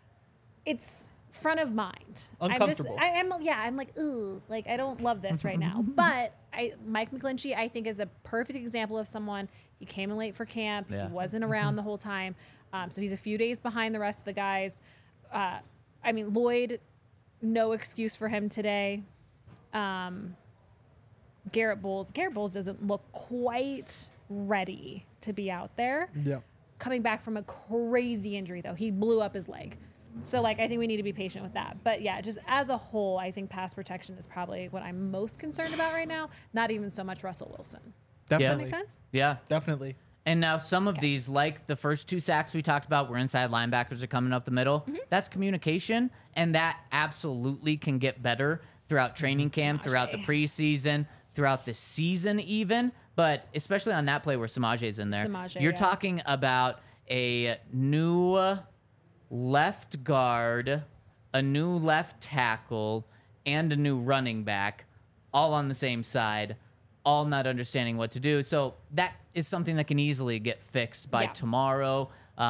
it's front of mind. Uncomfortable. I'm like, ooh, like I don't love this right now. But Mike McGlinchey, I think, is a perfect example of someone. He came in late for camp. Yeah. He wasn't around the whole time. So he's a few days behind the rest of the guys. I mean, Lloyd, no excuse for him today. Garrett Bowles doesn't look quite ready to be out there. Yeah. Coming back from a crazy injury, though. He blew up his leg. So, like, I think we need to be patient with that. But, yeah, just as a whole, I think pass protection is probably what I'm most concerned about right now. Not even so much Russell Wilson. Definitely. Does that make sense? Yeah. Definitely. And now some of these, like the first 2 sacks we talked about, where inside linebackers are coming up the middle. That's communication, and that absolutely can get better throughout training camp, throughout the preseason, throughout the season even. But especially on that play where Samaje's in there, you're talking about a new left guard, a new left tackle, and a new running back, all on the same side, all not understanding what to do. So that is something that can easily get fixed by tomorrow,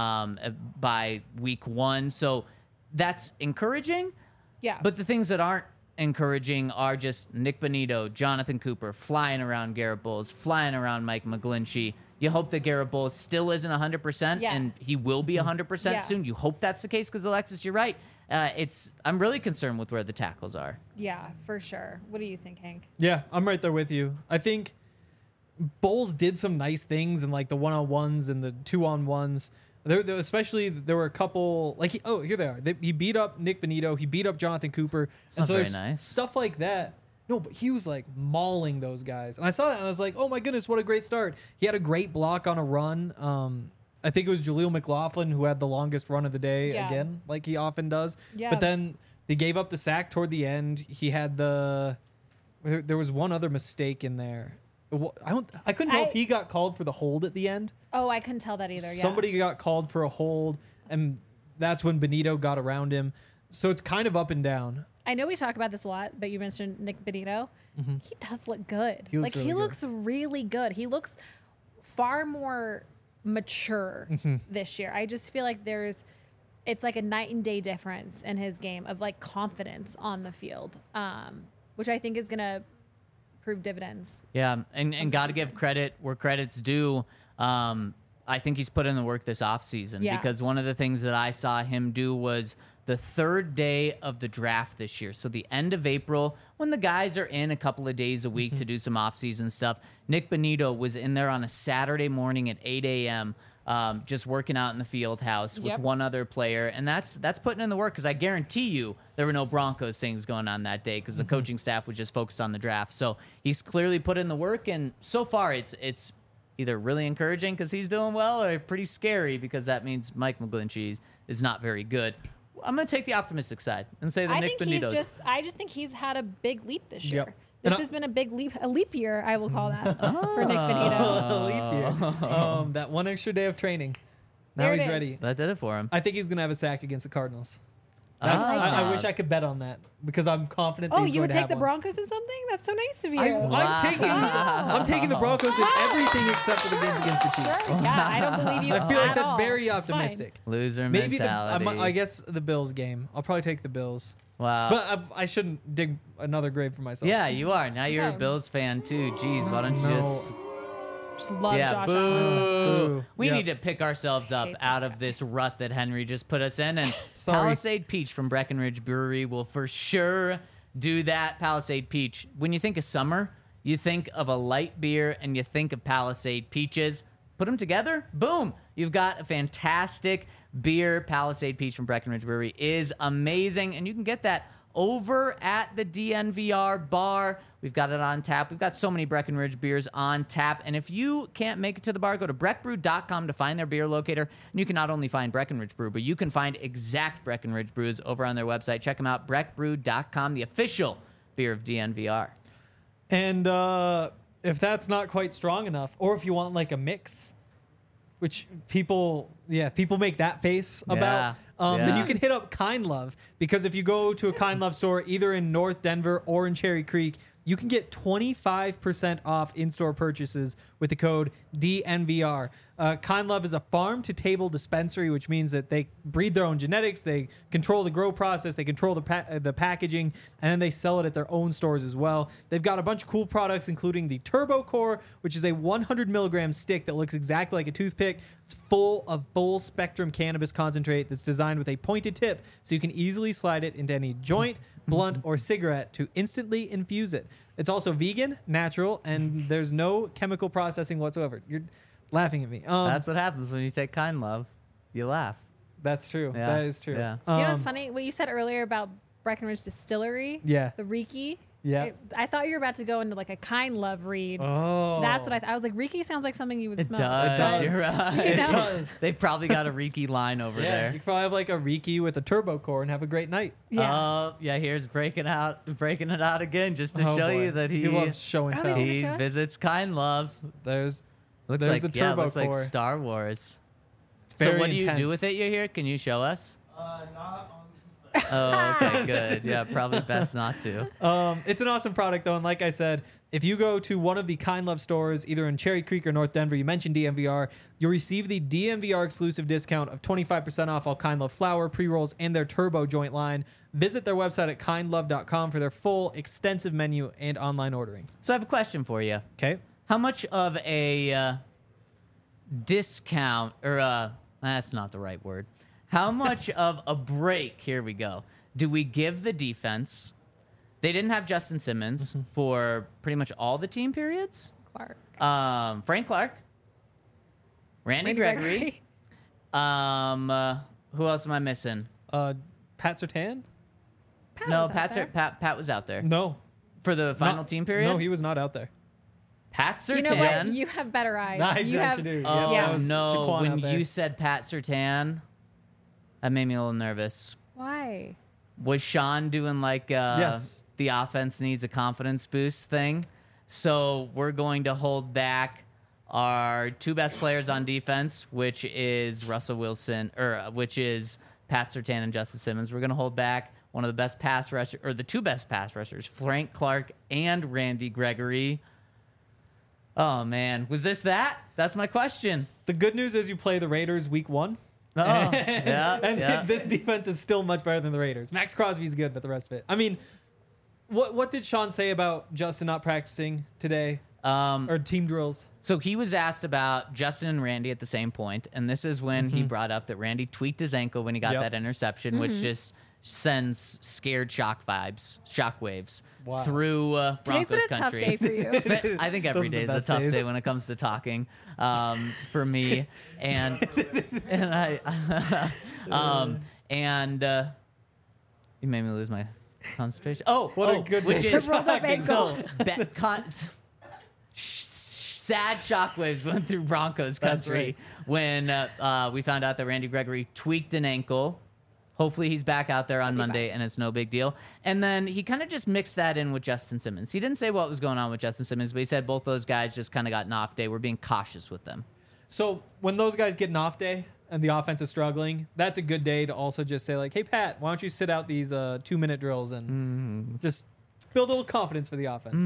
by week 1. So that's encouraging. Yeah. But the things that aren't encouraging are just Nick Bonito, Jonathan Cooper flying around Garrett Bowles, flying around Mike McGlinchey. You hope that Garrett Bowles still isn't 100%, and he will be 100% soon. You hope that's the case because, Alexis, you're right. I'm really concerned with where the tackles are. Yeah, for sure. What do you think, Hank? Yeah, I'm right there with you. I think Bowles did some nice things in like the 1-on-1s and the 2-on-1s. Especially there were a couple like here they are. He beat up Nick Bonito. He beat up Jonathan Cooper. And so there's nice stuff like that. No, but he was like mauling those guys, and I saw that and I was like, oh my goodness, what a great start. He had a great block on a run. I think it was Jaleel McLaughlin who had the longest run of the day again, like he often does. Yeah. But then they gave up the sack toward the end. He had there was one other mistake in there. I couldn't tell if he got called for the hold at the end. Oh, I couldn't tell that either. Yeah. Somebody got called for a hold, and that's when Bonito got around him. So it's kind of up and down. I know we talk about this a lot, but you mentioned Nick Bonito. He does look good. He looks really good. He looks far more mature this year. I just feel like it's like a night and day difference in his game of like confidence on the field, which I think is going to prove dividends. Yeah, and got to give credit where credit's due. I think he's put in the work this offseason because one of the things that I saw him do was the 3rd day of the draft this year. So the end of April, when the guys are in a couple of days a week to do some offseason stuff, Nick Bonito was in there on a Saturday morning at 8 a.m., just working out in the field house with one other player. And that's putting in the work because I guarantee you there were no Broncos things going on that day because the coaching staff was just focused on the draft. So he's clearly put in the work, and so far it's either really encouraging because he's doing well or pretty scary because that means Mike McGlinchey is not very good. I'm going to take the optimistic side and say that Nick Bonito's. I just think he's had a big leap this year. Yep. This has been a leap year, I will call that, for Nick Bonito. A leap year. That one extra day of training. Now There it he's is. ready. That did it for him. I think he's going to have a sack against the Cardinals. Ah. I wish I could bet on that because I'm confident. Oh, he's you going would to take have the one. Broncos in something? That's so nice of you. I'm taking the Broncos in everything except for the games against the Chiefs. Yeah, I don't believe you. I feel like at that's all. very It's fine. optimistic. Loser Maybe mentality. I guess the Bills game. I'll probably take the Bills. Wow. But I shouldn't dig another grave for myself. Yeah, you are. Now you're a Okay. Bills fan too. Jeez, why don't you just... Just love Yeah, Josh boo. Allen. Boo. We Yep. need to pick ourselves up hate this out guy. of this rut that Henry just put us in. And Sorry. Palisade Peach from Breckenridge Brewery will for sure do that. Palisade Peach. When you think of summer, you think of a light beer and you think of Palisade Peaches. Put them together, boom. You've got a fantastic beer. Palisade Peach from Breckenridge Brewery is amazing. And you can get that over at the DNVR bar. We've got it on tap. We've got so many Breckenridge beers on tap. And if you can't make it to the bar, go to breckbrew.com to find their beer locator. And you can not only find Breckenridge Brew, but you can find exact Breckenridge brews over on their website. Check them out, breckbrew.com, the official beer of DNVR. And if that's not quite strong enough, or if you want like a mix, which people make that face about, then you can hit up Kind Love, because if you go to a Kind Love store either in North Denver or in Cherry Creek, you can get 25% off in-store purchases with the code DNVR. Kind Love is a farm-to-table dispensary, which means that they breed their own genetics, they control the grow process, they control the packaging, and then they sell it at their own stores as well. They've got a bunch of cool products, including the Turbo Core, which is a 100 milligram stick that looks exactly like a toothpick. It's full of full-spectrum cannabis concentrate that's designed with a pointed tip, so you can easily slide it into any joint, blunt, or cigarette to instantly infuse it. It's also vegan, natural, and there's no chemical processing whatsoever. You're laughing at me. That's what happens when you take Kind Love. You laugh. That's true. Yeah. That is true. Yeah. Do you know what's funny? What you said earlier about Breckenridge Distillery? Yeah. The Riki? Yeah. I thought you were about to go into like a Kind Love read. Oh. That's what I was like, Riki sounds like something you would It smell. does. It does. You're right. You It know? does. They've probably got a Riki line over Yeah, there. you could probably have like a Riki with a turbo core and have a great night. Yeah. Oh, yeah, here's breaking it out again just to Oh, show boy. you that he loves show and Oh, tell. he's gonna he show us? visits Kind Love. There's Looks There's like the yeah, turbo looks like core. Star Wars. it's So very what do you do intense. with it? You here? Can you show us? Not on Oh, okay, good. Yeah, probably best not to. It's an awesome product though, and like I said, if you go to one of the Kind Love stores, either in Cherry Creek or North Denver, you mentioned DMVR, you'll receive the DMVR exclusive discount of 25% off all Kind Love flour, pre-rolls, and their turbo joint line. Visit their website at kindlove.com for their full extensive menu and online ordering. So I have a question for you. Okay. How much of a discount, or that's not the right word. How much of a break, here we go, do we give the defense? They didn't have Justin Simmons for pretty much all the team periods. Clark. Frank Clark, Randy Gregory. Who else am I missing? Pat Surtain? No, was out there. Pat was out there No. for the final Not- team period. No, he was not out there. Pat Surtain. You know what? You have better eyes. I you have, actually do. Oh that was no! Jaquan When out there. you said Pat Surtain, that made me a little nervous. Why? Was Sean doing like Yes. the offense needs a confidence boost thing? So we're going to hold back our two best players on defense, which is Russell Wilson, or which is Pat Surtain and Justin Simmons. We're going to hold back one of the best pass rushers, or the two best pass rushers, Frank Clark and Randy Gregory. Oh man, was this that? That's my question. The good news is you play the Raiders week 1. Oh, yeah, and yeah. this defense is still much better than the Raiders. Max Crosby's good, but the rest of it. I mean, what did Sean say about Justin not practicing today or team drills? So he was asked about Justin and Randy at the same point, and this is when he brought up that Randy tweaked his ankle when he got Yep. that interception, which just sends scared shockwaves Wow. through Today's Broncos been a tough country. day for you. I think every Those are the day is a best tough days. day when it comes to talking for me, and I you made me lose my concentration. Oh, What a oh, good which day is for Rolled up talking. ankle. sad shockwaves went through Broncos That's country when we found out that Randy Gregory tweaked an ankle. Hopefully he's back out there on Monday and it's no big deal. And then he kind of just mixed that in with Justin Simmons. He didn't say what was going on with Justin Simmons, but he said both those guys just kind of got an off day. We're being cautious with them. So when those guys get an off day and the offense is struggling, that's a good day to also just say like, hey, Pat, why don't you sit out these 2-minute drills and just build a little confidence for the offense.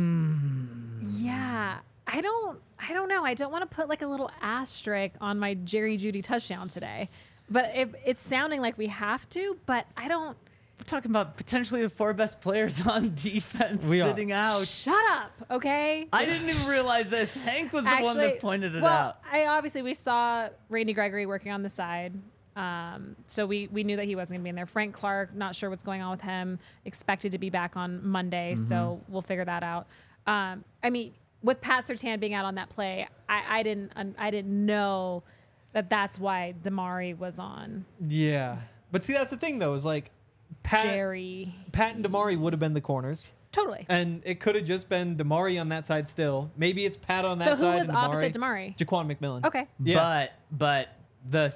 Yeah. I don't know. I don't want to put like a little asterisk on my Jerry Jeudy touchdown today. But if it's sounding like we have to, but I don't. We're talking about potentially the 4 best players on defense We are. sitting out. Shut up, okay? I didn't even realize this. Hank was the one that pointed it out. We saw Randy Gregory working on the side. So we knew that he wasn't gonna be in there. Frank Clark, not sure what's going on with him. Expected to be back on Monday, so we'll figure that out. I mean, with Pat Surtain being out on that play, I didn't know that's why Damari was on. Yeah. But see, that's the thing, though, is like Pat and Damari would have been the corners. Totally. And it could have just been Damari on that side still. Maybe it's Pat on that So side. who was and opposite Damari? Jaquan McMillan. Okay. Yeah. But the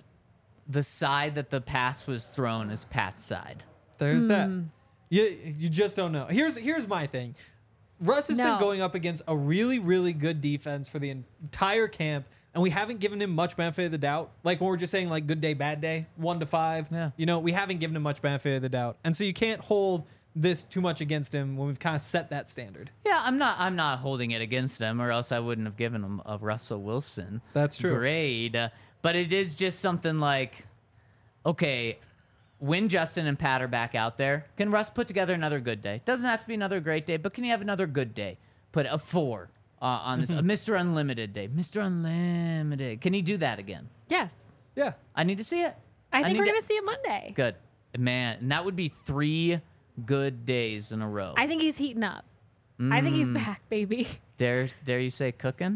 side that the pass was thrown is Pat's side. There's that. You just don't know. Here's my thing. Russ has been No. going up against a really, really good defense for the entire camp, and we haven't given him much benefit of the doubt. Like when we're just saying like good day, bad day, 1 to 5. Yeah. You know, we haven't given him much benefit of the doubt. And so you can't hold this too much against him when we've kind of set that standard. Yeah, I'm not holding it against him, or else I wouldn't have given him a Russell Wilson. That's true. Grade. But it is just something like, okay, when Justin and Pat are back out there, can Russ put together another good day? Doesn't have to be another great day, but can he have another good day? Put a 4 on this, a Mr. Unlimited day. Mr. Unlimited. Can he do that again? Yes. Yeah. I need to see it. I think need we're to- going to see it Monday. Good. Man, and that would be 3 good days in a row. I think he's heating up. I think he's back, baby. Dare you say cooking?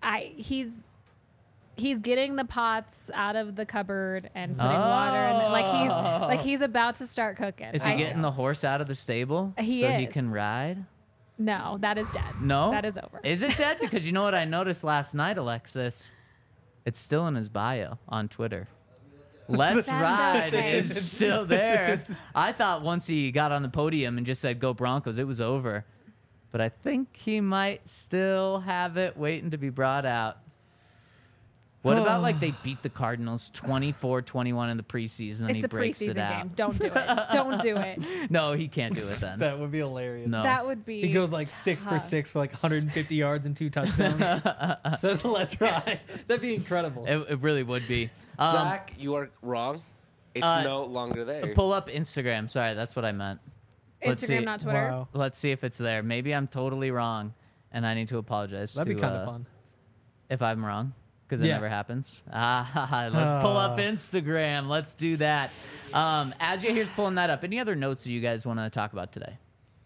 He's getting the pots out of the cupboard and putting water in it. Like he's about to start cooking. Is he getting the horse out of the stable so he is. can ride? No, that is dead. No? That is over. Is it dead? Because you know what I noticed last night, Alexis? It's still in his bio on Twitter. Let's That's Ride okay. is still there. I thought once he got on the podium and just said, go Broncos, it was over. But I think he might still have it waiting to be brought out. What about like they beat the Cardinals 24-21 in the preseason and It's he a breaks it preseason out? game. Don't do it. Don't do it. No, he can't do it then. That would be hilarious. No. That would be. He goes like 6 for 6 for like 150 yards and 2 touchdowns. Says, let's ride. That'd be incredible. It really would be. Zach, you are wrong. It's no longer there. Pull up Instagram. Sorry, that's what I meant. Let's see. Instagram, not Twitter. Wow. Let's see if it's there. Maybe I'm totally wrong, and I need to apologize. That'd be to, kind of fun. if I'm wrong, because it Yeah. never happens. Let's pull up Instagram. Let's do that. As you here's pulling that up. Any other notes that you guys want to talk about today?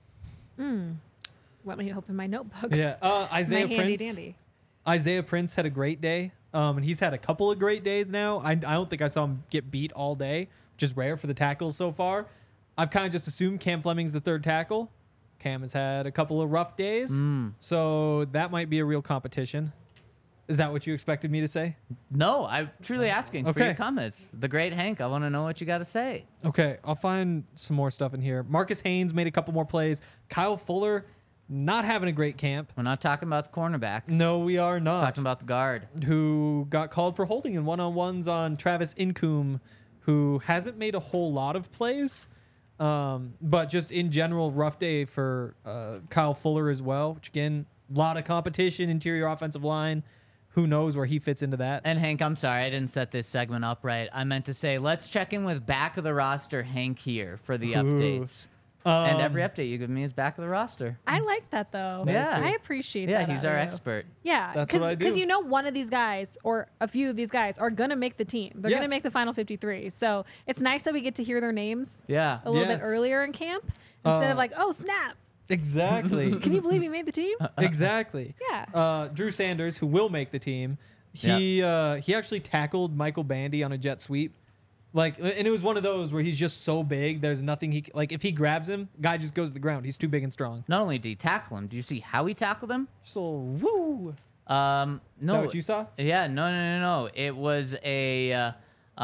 Let me open my notebook. Yeah. Isaiah My handy Prince. dandy. Isaiah Prince had a great day. And he's had a couple of great days now. I don't think I saw him get beat all day, which is rare for the tackles so far. I've kind of just assumed Cam Fleming's the third tackle. Cam has had a couple of rough days, so that might be a real competition. Is that what you expected me to say? No, I'm truly asking for Okay. your comments. The great Hank, I want to know what you got to say. Okay, I'll find some more stuff in here. Marcus Haynes made a couple more plays. Kyle Fuller, not having a great camp. We're not talking about the cornerback. No, we are not. Talking about the guard. Who got called for holding in one-on-ones on Travis Incoom, who hasn't made a whole lot of plays. But just in general, rough day for Kyle Fuller as well, which again, a lot of competition, interior offensive line. Who knows where he fits into that? And Hank, I'm sorry, I didn't set this segment up right. I meant to say, let's check in with back of the roster Hank here for the updates. And every update you give me is back of the roster. I like that though. Yeah. I appreciate Yeah, that. he's out our of you. expert. Yeah, That's what I do. Because you know one of these guys or a few of these guys are gonna make the team. They're gonna Yes. make the final 53. So it's nice that we get to hear their names Yeah. a little Yes. bit earlier in camp instead of like, oh snap, Exactly. can you believe he made the team? Exactly. Yeah. Drew Sanders, who will make the team, he actually tackled Michael Bandy on a jet sweep. Like, and it was one of those where he's just so big, there's nothing he like. If he grabs him, guy just goes to the ground. He's too big and strong. Not only did he tackle him, do you see how he tackled him? So woo. No. Is that what you saw? Yeah, no. It was a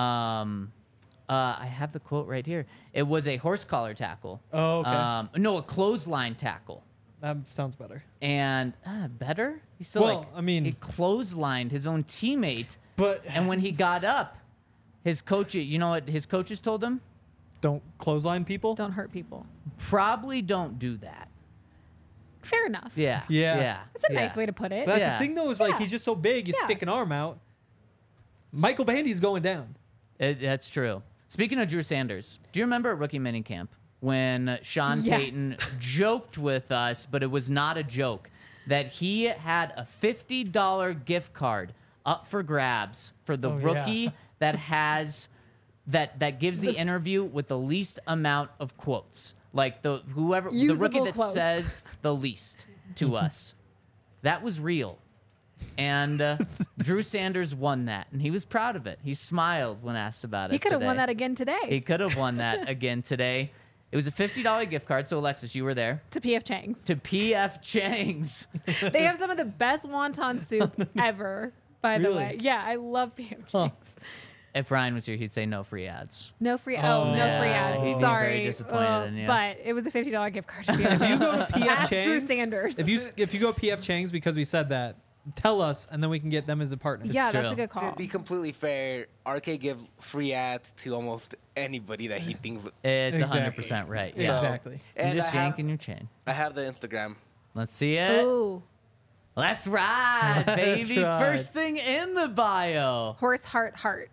I have the quote right here. It was a horse collar tackle. Oh, okay. No, a clothesline tackle. That sounds better. And better? He still Well, I mean- he clotheslined his own teammate. But And when he got up, his coach, you know what his coaches told him? don't clothesline people. Don't hurt people. Probably don't do that. Fair enough. Yeah. Yeah. That's a nice way to put it. That's Yeah. the thing, though, is like Yeah. he's just so big, you Yeah. stick an arm out. Michael Bandy's going down. That's true. Speaking of Drew Sanders, do you remember at rookie minicamp when Sean Yes. Payton joked with us, but it was not a joke, that he had a $50 gift card up for grabs for the Oh, rookie yeah. that has that gives the interview with the least amount of quotes, like the rookie Usable that quotes. says the least to us. That was real. And Drew Sanders won that, and he was proud of it. He smiled when asked about it. He could have won today. that again today He could have won that again today. It was a $50 gift card. So, Alexis, you were there. to PF Chang's. To P.F. Chang's. They have some of the best wonton soup ever, by the Really? way. Yeah, I love PF Chang's. If Ryan was here, he'd say no free ads. No free. Oh. No Yeah, free ads. he'd be very Sorry, disappointed in you. But it was a $50 gift card. To PF You Chang's. go to PF Ask Chang's. Drew Sanders. If you go PF Chang's because we said that, tell us, and then we can get them as a partner. yeah, true. that's a good To call. be completely fair, RK gives free ads to almost anybody that he thinks. It's Exactly. 100% right. Yeah. Exactly. You're And just I have, yanking your chain. I have the Instagram. Let's see it. Ooh, Let's ride, Let's baby. ride. First thing in the bio. horse heart.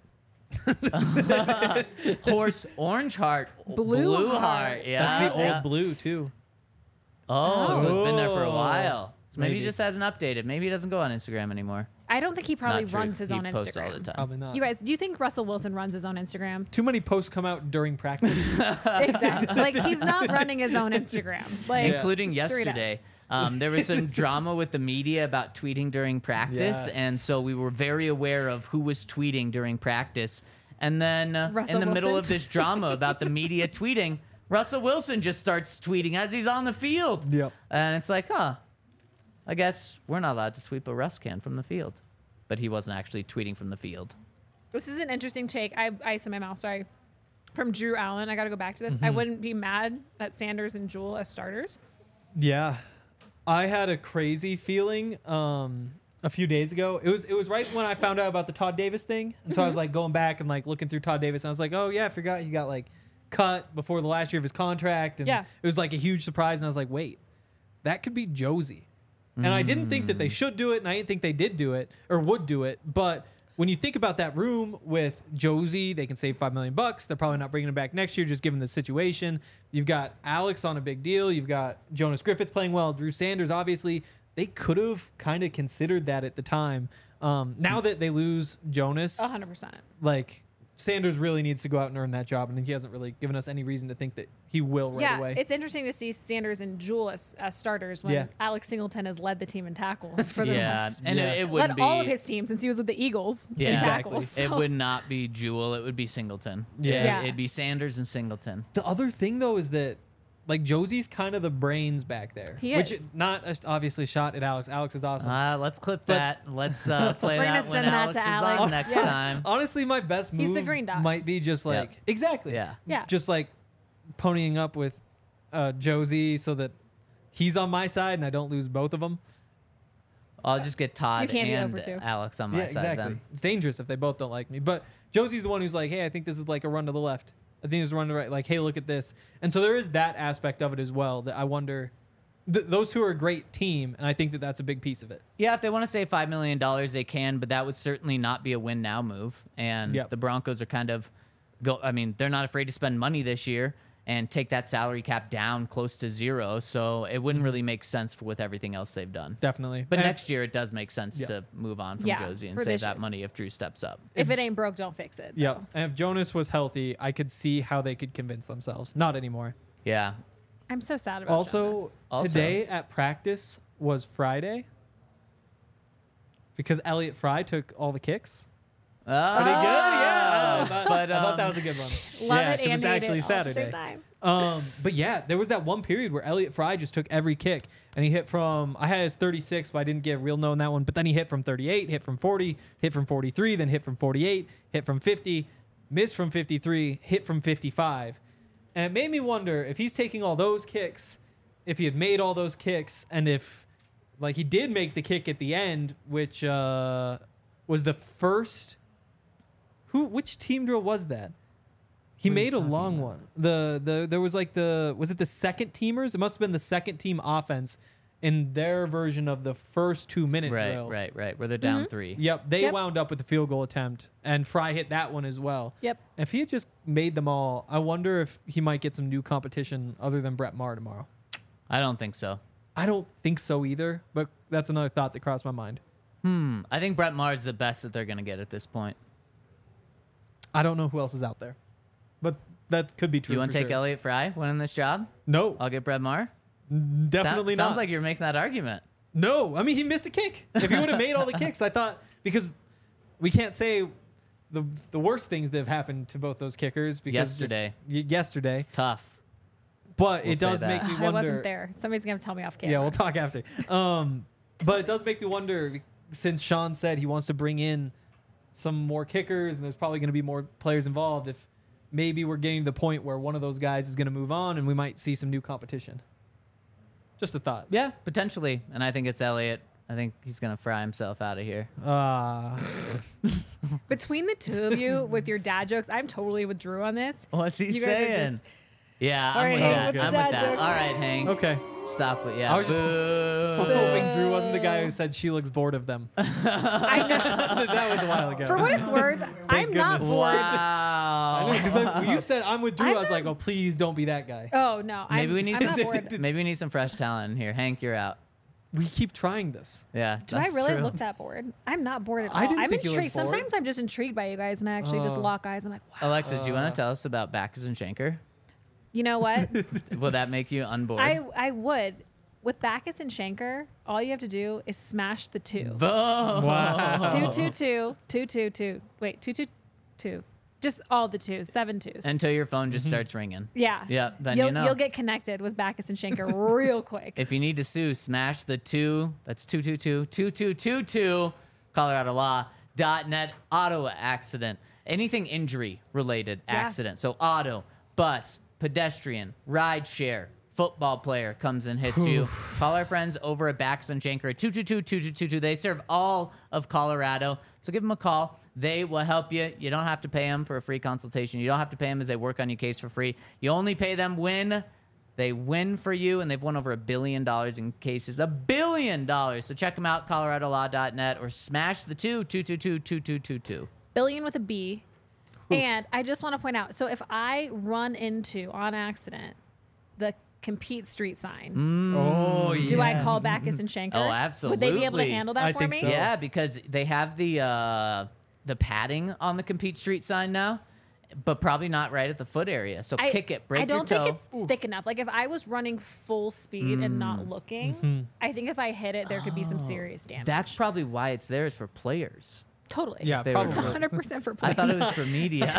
Horse orange heart. Blue heart. heart. Yeah. That's the yeah. old blue too. Oh, so it's been there for a Oh. while. So maybe he Maybe. just hasn't updated. Maybe he doesn't go on Instagram anymore. I don't think he It's not probably true. runs his He own posts all the Instagram. time. Probably not. You guys, do you think Russell Wilson runs his own Instagram? Too many posts come out during practice. Exactly. Like he's not running his own Instagram. Like Including straight up. yesterday. There was some drama with the media about tweeting during practice, Yes. and so we were very aware of who was tweeting during practice. And then Russell in the middle Wilson? of this drama about the media tweeting, Russell Wilson just starts tweeting as he's on the field. Yep. And it's like, I guess we're not allowed to tweet, but Russ can from the field. But he wasn't actually tweeting from the field. This is an interesting take. I have ice in my mouth. Sorry. From Drew Allen. I got to go back to this. I wouldn't be mad at Sanders and Jewell as starters. Yeah, I had a crazy feeling a few days ago. It was right when I found out about the Todd Davis thing, and so I was like going back and like looking through Todd Davis, and I was like, oh yeah, I forgot he got like cut before the last year of his contract, and Yeah. it was like a huge surprise, and I was like, wait, that could be Josie, and I didn't think that they should do it, and I didn't think they did do it or would do it, but when you think about that room with Josie, they can save $5 million. They're probably not bringing him back next year, just given the situation. You've got Alex on a big deal. You've got Jonas Griffith playing well. Drew Sanders, obviously, they could have kind of considered that at the time. Now that they lose Jonas, 100%. like Sanders really needs to go out and earn that job, and he hasn't really given us any reason to think that he will right away. It's interesting to see Sanders and Jewell as starters when Yeah. Alex Singleton has led the team in tackles for the last. and Yeah. it wouldn't Led be all of his teams since he was with the Eagles in Exactly. tackles. It So- would not be Jewell. It would be Singleton. Yeah. It'd be Sanders and Singleton. The other thing, though, is that like Josie's kind of the brains back there. He Which is. is not obviously shot at Alex. Alex is awesome. Let's clip But- that. Let's play We're gonna that when send that Alex to is Alex. on next Yeah. time. Honestly, my best move He's the green dot. might be just like Yep. exactly, Yeah. Yeah. just like ponying up with Josie so that he's on my side and I don't lose both of them. I'll just get Todd You can't be and over two. Alex on my side then. It's dangerous if they both don't like me. But Josie's the one who's like, hey, I think this is like a run to the left. I think it's a run to the right. Like, hey, look at this. And so there is that aspect of it as well that I wonder. Those two are a great team, and I think that that's a big piece of it. Yeah, if they want to save $5 million, they can, but that would certainly not be a win now move. And Yep. the Broncos are kind of they're not afraid to spend money this year and take that salary cap down close to zero. So it wouldn't really make sense with everything else they've done. Definitely. But And- next year it does make sense Yeah. to move on from Yeah, Josie and for save this that year. money if Drew steps up. If it ain't broke, don't fix it. Yep. though. And if Jonas was healthy, I could see how they could convince themselves. Not anymore. Yeah. I'm so sad about Also, Jonas. today at practice was Friday because Elliott Fry took all the kicks. Pretty good, yeah. I thought that was a good one. Love yeah, it 'cause and it's hate actually it all at the Saturday. same time. But yeah, there was that one period where Elliott Fry just took every kick, and he hit from. I had his 36, but I didn't get real no in that one. But then he hit from 38, hit from 40, hit from 43, then hit from 48, hit from 50, missed from 53, hit from 55, and it made me wonder if he's taking all those kicks, if he had made all those kicks, and if like he did make the kick at the end, which was the first. Which team drill was that? He made a long one. There was like was it the second teamers? It must have been the second team offense in their version of the first 2-minute drill. Right. Where they're down 3. Yep, they Yep. wound up with the field goal attempt, and Fry hit that one as well. Yep. If he had just made them all, I wonder if he might get some new competition other than Brett Maher tomorrow. I don't think so. I don't think so either, but that's another thought that crossed my mind. I think Brett Maher is the best that they're going to get at this point. I don't know who else is out there, but that could be true. You want for to take sure. Elliott Fry winning this job? No, I'll get Brett Maher? definitely not. Sounds like you're making that argument. No, I mean he missed a kick. If he would have made all the kicks, I thought because we can't say the worst things that have happened to both those kickers because yesterday, Tough. but We'll it does say make that. me I wonder. wasn't there. Somebody's gonna tell me off camera. Yeah, we'll talk after. But it does make me wonder since Sean said he wants to bring in some more kickers and there's probably going to be more players involved. If maybe we're getting to the point where one of those guys is going to move on and we might see some new competition. Just a thought. Yeah, potentially. And I think it's Elliott. I think he's going to fry himself out of here. Between the two of you with your dad jokes, I'm totally with Drew on this. What's he You guys are saying? just- Yeah, All I'm right, with Hank, that. with the I'm with dad that. jokes. All right, Hank. Okay. Stop it. Yeah. I was just Boo. hoping Drew wasn't the guy who said she looks bored of them. I know. That was a while ago. For what it's worth, I'm not goodness. bored. Wow. Because when you said I'm with Drew, I'm I was not- like, oh, please don't be that guy. Oh no, Maybe I'm, we need I'm some. not bored. Maybe we need some fresh talent in here. Hank, you're out. we keep trying this. Yeah. Do I that's really true. look that bored? I'm not bored at all. I didn't I'm think you looked intrigued. bored. Sometimes I'm just intrigued by you guys, and I actually just lock eyes. I'm like, wow. Alexis, do you want to tell us about Backus and Schenker? You know what? Will that make you unbored? I would. With Backus and Schenker, all you have to do is smash the 2. Boom. Wow. 222, 222. Wait, 222. Just all the 2s, 7 2s. Until your phone just starts ringing. Yeah. Yeah, then you'll, you know. You'll get connected with Backus and Schenker real quick. If you need to sue, smash the 2. That's 222-2222. ColoradoLaw.net. Auto accident. Anything injury related accident. So auto, bus, pedestrian, ride share, football player comes and hits you. Call our friends over at Backus and Schenker at 222-2222. They serve all of Colorado. So give them a call. They will help you. You don't have to pay them for a free consultation. You don't have to pay them as they work on your case for free. You only pay them when they win for you, and they've won over $1 billion in cases. $1 billion. So check them out, ColoradoLaw.net, or smash the 222-2222. Billion with a B. And I just want to point out, so if I run into, on accident, the Compete Street sign, Oh, yeah. do I call Backus and Schenker? Oh, Would they be able to absolutely. handle that I for think me? so. Yeah, because they have the padding on the Compete Street sign now, but probably not right at the foot area. So kick it, break I don't your toe. think it's thick enough. Like if I was running full speed and not looking, I think if I hit it, there could be some serious damage. That's probably why it's there, is for players. totally. Yeah, They were- It's probably. 100% for I players. thought it was for media.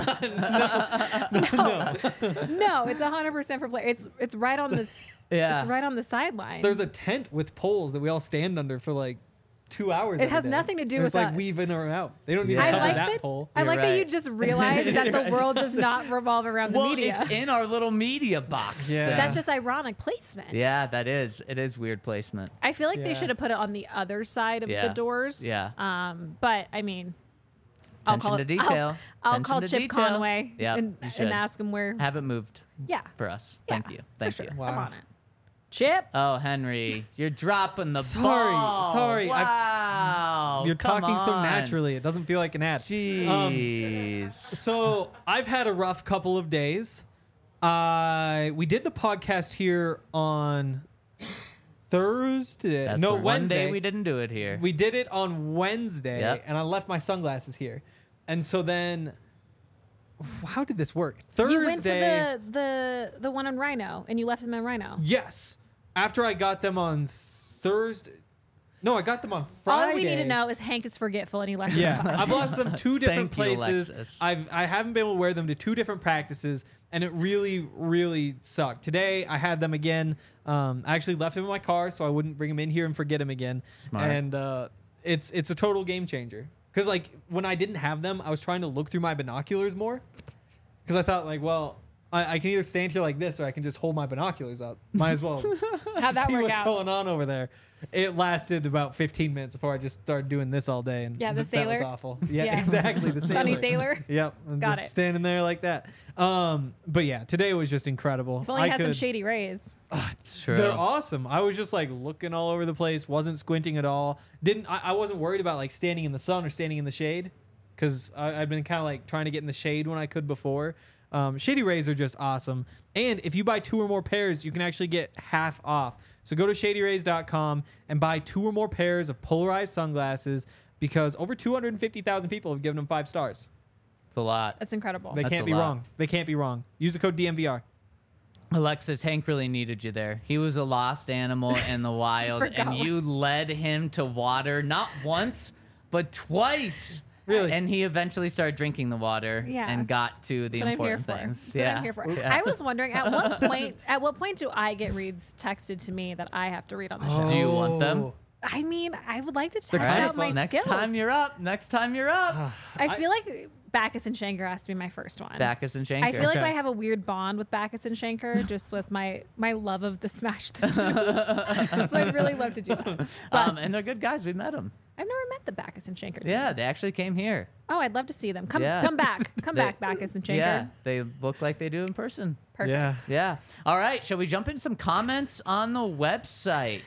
No, it's 100% for players. It's right on this. Yeah. It's right on the sideline. There's a tent with poles that we all stand under for like 2 hours. It every has day. nothing to do There's with like us. weave in or out. They don't need Yeah. to cover like that that. pole. I You're like that you right. just realized that the world does not revolve around the Well, media. it's in our little media box. Yeah. thing. That's just ironic placement. Yeah, that is. It is weird placement. I feel like Yeah. they should have put it on the other side of Yeah. the doors. Yeah. But I mean, Attention to detail. I'll Attention call to Chip detail. Conway Yeah, and you should. ask him where. Have it moved Yeah. for us. Yeah, Thank you. Thank for sure. you. Wow. I'm on it. Chip. Oh, Henry, you're dropping the Sorry, ball. sorry. Wow. You're come talking so on. naturally. It doesn't feel like an ad. Jeez. So I've had a rough couple of days. We did the podcast here on Thursday. That's no, the one Wednesday. day we didn't do it here. We did it on Wednesday, Yep. and I left my sunglasses here. And so then, how did this work? Thursday. You went to the one on Rhino and you left them in Rhino. Yes. After I got them on Thursday. No, I got them on Friday. All we need to know is Hank is forgetful and he left his Yeah, glasses. I've lost them two different Thank you, places. Alexis. I haven't been able to wear them to two different practices, and it really, really sucked. Today I had them again. I actually left them in my car so I wouldn't bring them in here and forget them again. Smart. And it's a total game changer. Because like when I didn't have them, I was trying to look through my binoculars more. Because I thought like, well, I can either stand here like this or I can just hold my binoculars up. Might as well How'd that see work what's out? going on over there. It lasted about 15 minutes before I just started doing this all day, and Yeah, the that was sailor. awful. Yeah, Yeah. exactly. The Sunny sailor. sailor. Yep, I'm Got just it. standing there like that. But yeah, today was just incredible. If only had some shady rays. True. They're awesome. I was just like looking all over the place, wasn't squinting at all. I wasn't worried about like standing in the sun or standing in the shade, because I've been kind of like trying to get in the shade when I could before. Shady Rays are just awesome. And if you buy 2 or more pairs, you can actually get half off. So go to shadyrays.com and buy 2 or more pairs of polarized sunglasses, because over 250,000 people have given them 5 stars. It's a lot. That's incredible. They That's can't a be lot. wrong. They can't be wrong. Use the code DMVR. Alexis, Hank really needed you there. He was a lost animal in the wild, Forgot. and you led him to water not once, but twice. Really? And he eventually started drinking the water Yeah. and got to the That's what I'm here important for. things. That's what I'm here for. I was wondering at what point do I get reads texted to me that I have to read on the show? Do you want them? Oh. I mean, I would like to test They're All right, out my next skills. time you're up. Next time you're up. I feel like Backus and Schenker has to be my first one. Backus and Schenker. I feel like Okay. I have a weird bond with Backus and Schenker just with my love of the Smash the Two. So I'd really love to do that. But and they're good guys. We met them. I've never met the Backus and Schenker team. Yeah, they actually came here. Oh, I'd love to see them. Come Yeah. come back. Come They- back, Backus and Schenker. Yeah, they look like they do in person. Perfect. Yeah. Yeah. All right. Shall we jump in some comments on the website?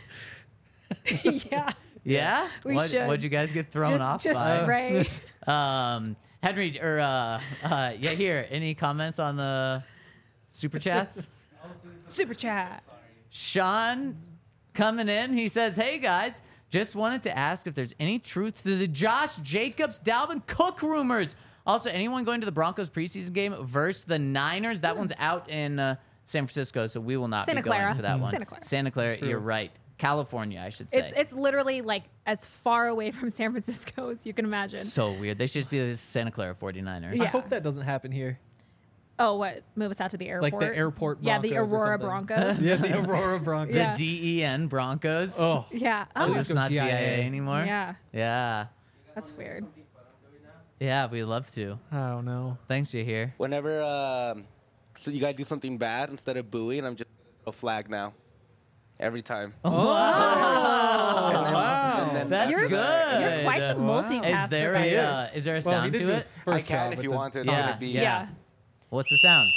Yeah. Yeah. We should. What'd you guys get thrown off Just by? right. Henry, or yeah, here. Any comments on the super chats? Super chat. Sean coming in. He says, "Hey guys, just wanted to ask if there's any truth to the Josh Jacobs, Dalvin Cook rumors. Also, anyone going to the Broncos preseason game versus the Niners? That one's out in San Francisco, so we will not Santa be going Clara. for that one. Santa Clara. Santa Clara, you're right. California, I should say. It's literally like as far away from San Francisco as you can imagine. So weird. They should just be the Santa Clara 49ers. I Yeah. hope that doesn't happen here. Oh, what? Move us out to the airport? Like the airport Yeah, the Broncos or Aurora something. Broncos. Yeah, the Aurora Broncos. Yeah. The DEN Broncos. Oh, Yeah. Oh, Oh, Let's it's go not DIA DIA anymore? yeah. Yeah. That's weird. Yeah, we'd love to. I don't know. Thanks, Jahir. Whenever so you guys do something bad, instead of booing, I'm just a flag now. Every time. Wow. And then That's You're good. You're quite the multitasker. Is there buddy. is there a Well, he sound did to do it? his first I can job if with you the- want it. Yeah. It's gonna be Yeah. What's the sound?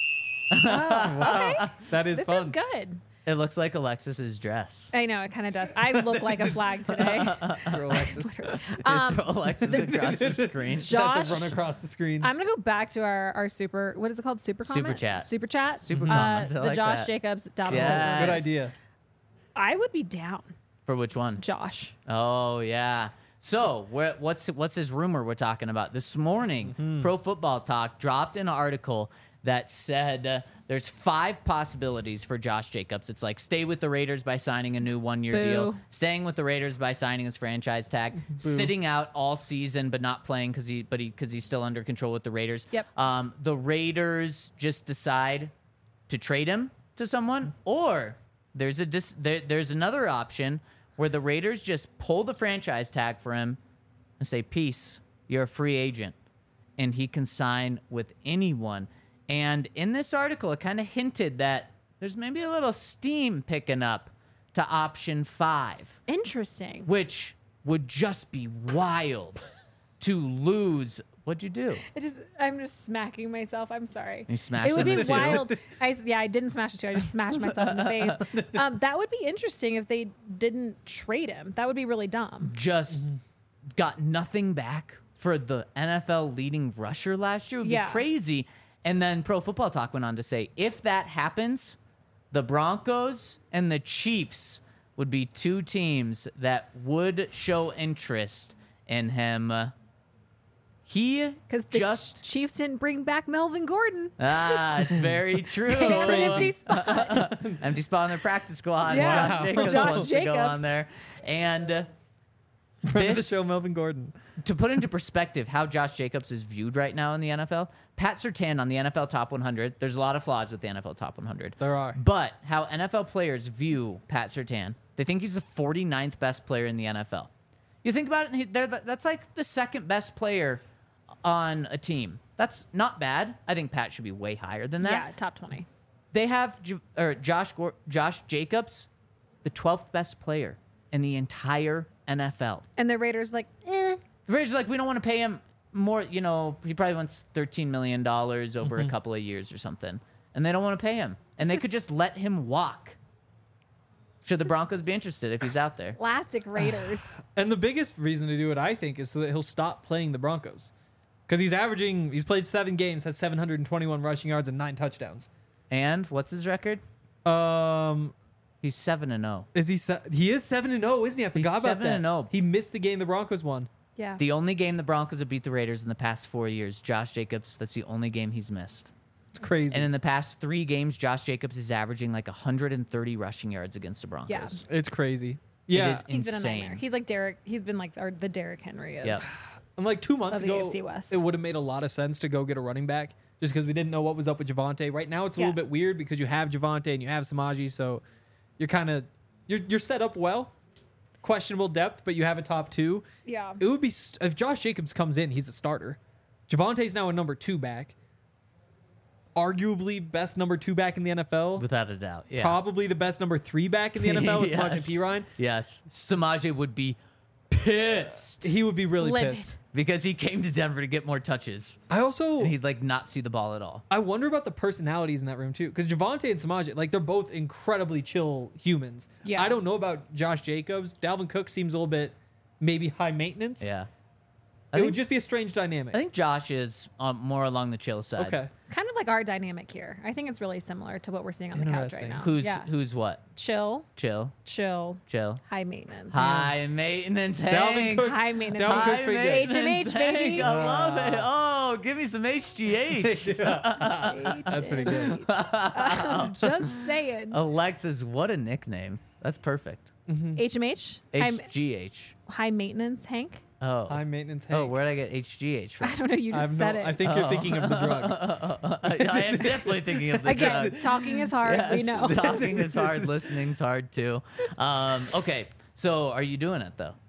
Oh, okay. That is This fun. is good. It looks like Alexis's dress. I know it kind of does. I look like a flag today. For Alexis. Throw Alexis across the screen. Just has Josh, to run across the screen. I'm gonna go back to our super. What is it called? Super comment? Super chat. Super chat. Super comment. I The like Josh that. Jacobs. Dalvin Yes. Cook. Good idea. I would be down, For which one? Josh. Oh yeah. So what's this rumor we're talking about? This morning, Pro Football Talk dropped an article that said there's 5 possibilities for Josh Jacobs. It's like stay with the Raiders by signing a new 1-year deal, Boo. staying with the Raiders by signing his franchise tag, sitting out all season but not playing because he's still under control with the Raiders. Yep. The Raiders just decide to trade him to someone, or there's another option where the Raiders just pull the franchise tag for him and say, peace, you're a free agent, and he can sign with anyone. And in this article, it kind of hinted that there's maybe a little steam picking up to option 5, Interesting. which would just be wild to lose. What'd you do? I'm just smacking myself. I'm sorry. You smashed It would him be in two. wild. I didn't smash it too. I just smashed myself in the face. That would be interesting if they didn't trade him. That would be really dumb. Just got nothing back for the NFL leading rusher last year. It would Yeah. be crazy. And then Pro Football Talk went on to say, if that happens, the Broncos and the Chiefs would be 2 teams that would show interest in him. He Because the just Chiefs didn't bring back Melvin Gordon. it's very true. They have an empty spot. Empty spot on their practice squad. Yeah. Josh Jacobs Josh wants to go Jacobs. on there. And Friend of the this- show, Melvin Gordon. to put into perspective how Josh Jacobs is viewed right now in the NFL, Pat Surtain on the NFL Top 100, there's a lot of flaws with the NFL Top 100. There are. But how NFL players view Pat Surtain, they think he's the 49th best player in the NFL. You think about it, that's like the second best player on a team. That's not bad. I think Pat should be way higher than that. Yeah, top 20. They have Josh Jacobs, the 12th best player in the entire NFL. And the Raiders like, The Raiders are like, we don't want to pay him more. You know, he probably wants $13 million over a couple of years or something. And they don't want to pay him. And This they could is- just let him walk. Should the Broncos be interested if he's out there? classic Raiders. And the biggest reason to do it, I think, is so that he'll stop playing the Broncos. Because he's played 7 games, has 721 rushing yards and 9 touchdowns. And what's his record? He's 7-0. Is he? He is 7-0, isn't he? I forgot about that. 7-0. He missed the game the Broncos won. Yeah. The only game the Broncos have beat the Raiders in the past 4 years, Josh Jacobs, that's the only game he's missed. It's crazy. And in the past 3 games, Josh Jacobs is averaging like 130 rushing yards against the Broncos. It's crazy. Yeah. It is He's been a nightmare. insane. He's like Derek. He's been like the Derrick Henry of. Yep. And like 2 months Of the ago, AFC West. it would have made a lot of sense to go get a running back just because we didn't know what was up with Javonte. Right now, it's a Yeah. little bit weird because you have Javonte and you have Samaji, so you're kind of you're set up well. Questionable depth, but you have a top 2. Yeah. It would be if Josh Jacobs comes in, he's a starter. Javonte's now a number 2 back. Arguably best number 2 back in the NFL. Without a doubt. Yeah. Probably the best number 3 back in the NFL with Samaje Yes. Perine. Yes. Samaje would be pissed He would be really Livid. pissed. because he came to Denver to get more touches. I also And he'd like not see the ball at all. I wonder about the personalities in that room too, because Javonte and Samaje, like they're both incredibly chill humans. Yeah. I don't know about Josh Jacobs. Dalvin Cook seems a little bit maybe high maintenance. Yeah. It would just be a strange dynamic. I think Josh is more along the chill side. Okay. Kind of like our dynamic here. I think it's really similar to what we're seeing on the couch right Interesting. now. Who's what? Chill, Chill. high maintenance. High maintenance Dalvin Hank. Cook. High maintenance. Dalvin High Cook's pretty good. maintenance HMH, baby. Hank. I love it. Oh, give me some HGH. That's pretty good. Just saying. Alexis, what a nickname. That's perfect. HMH? HGH. High maintenance, Hank? Oh. High maintenance Hank. Oh, where'd I get HGH from? I don't know. You I just have said no, it. I think you're thinking of the drug. I am definitely thinking of the Again, drug. talking is hard. We Yes, know. talking is hard. Listening's hard too. Okay, so are you doing it though?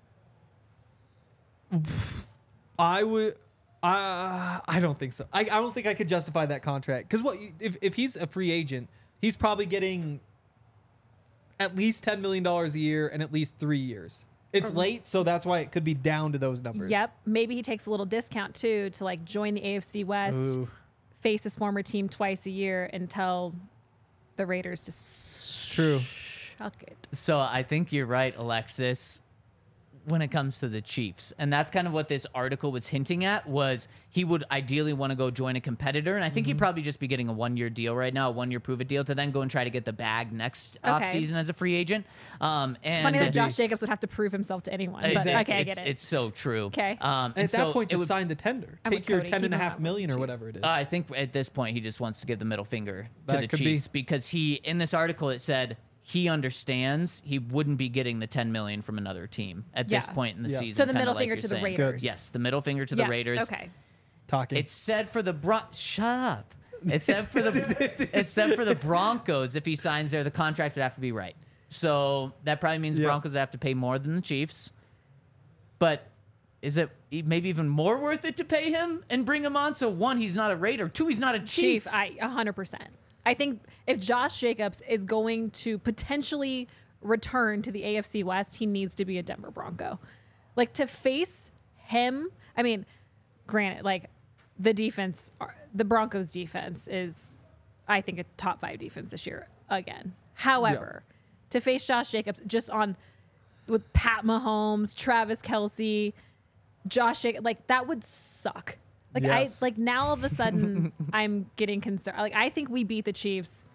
I would. I don't think so. I don't think I could justify that contract because if he's a free agent, he's probably getting at least $10 million a year and at least 3 years. It's late, so that's why it could be down to those numbers. Yep. Maybe he takes a little discount too to like join the AFC West, Ooh. face his former team twice a year, and tell the Raiders to It's true. suck it. So I think you're right, Alexis, when it comes to the Chiefs. And that's kind of what this article was hinting at, was he would ideally want to go join a competitor. And I think he'd probably just be getting a 1-year deal right now, a 1-year prove-it deal, to then go and try to get the bag next offseason as a free agent. And It's funny that Josh Jacobs would have to prove himself to anyone. Exactly. But okay, I get it. It's so true. Okay. And At that point, it just would- sign the tender. I'm Take with your Cody. 10 and a Keep him half out million or with the whatever it is. I think at this point he just wants to give the middle finger to That the could Chiefs because he, in this article, it said he understands he wouldn't be getting the $10 million from another team at this Yeah. point in the Yeah. season. So the kinda middle like finger you're to the saying. Raiders. Yes, the middle finger to the Yeah, Raiders. Okay. Talking. It said for the shut up. It said for the Broncos, if he signs there, the contract would have to be right. So that probably means Yeah. Broncos have to pay more than the Chiefs. But is it maybe even more worth it to pay him and bring him on? So 1, he's not a Raider. 2, he's not a Chief. 100%. I think if Josh Jacobs is going to potentially return to the AFC West, he needs to be a Denver Bronco. Like, to face him, I mean, granted, like, the defense, the Broncos defense is, I think, a top 5 defense this year again. However, to face Josh Jacobs just with Pat Mahomes, Travis Kelce, Josh Jacobs, like, that would suck. Like, Yes. now all of a sudden I'm getting concerned. Like, I think we beat the Chiefs.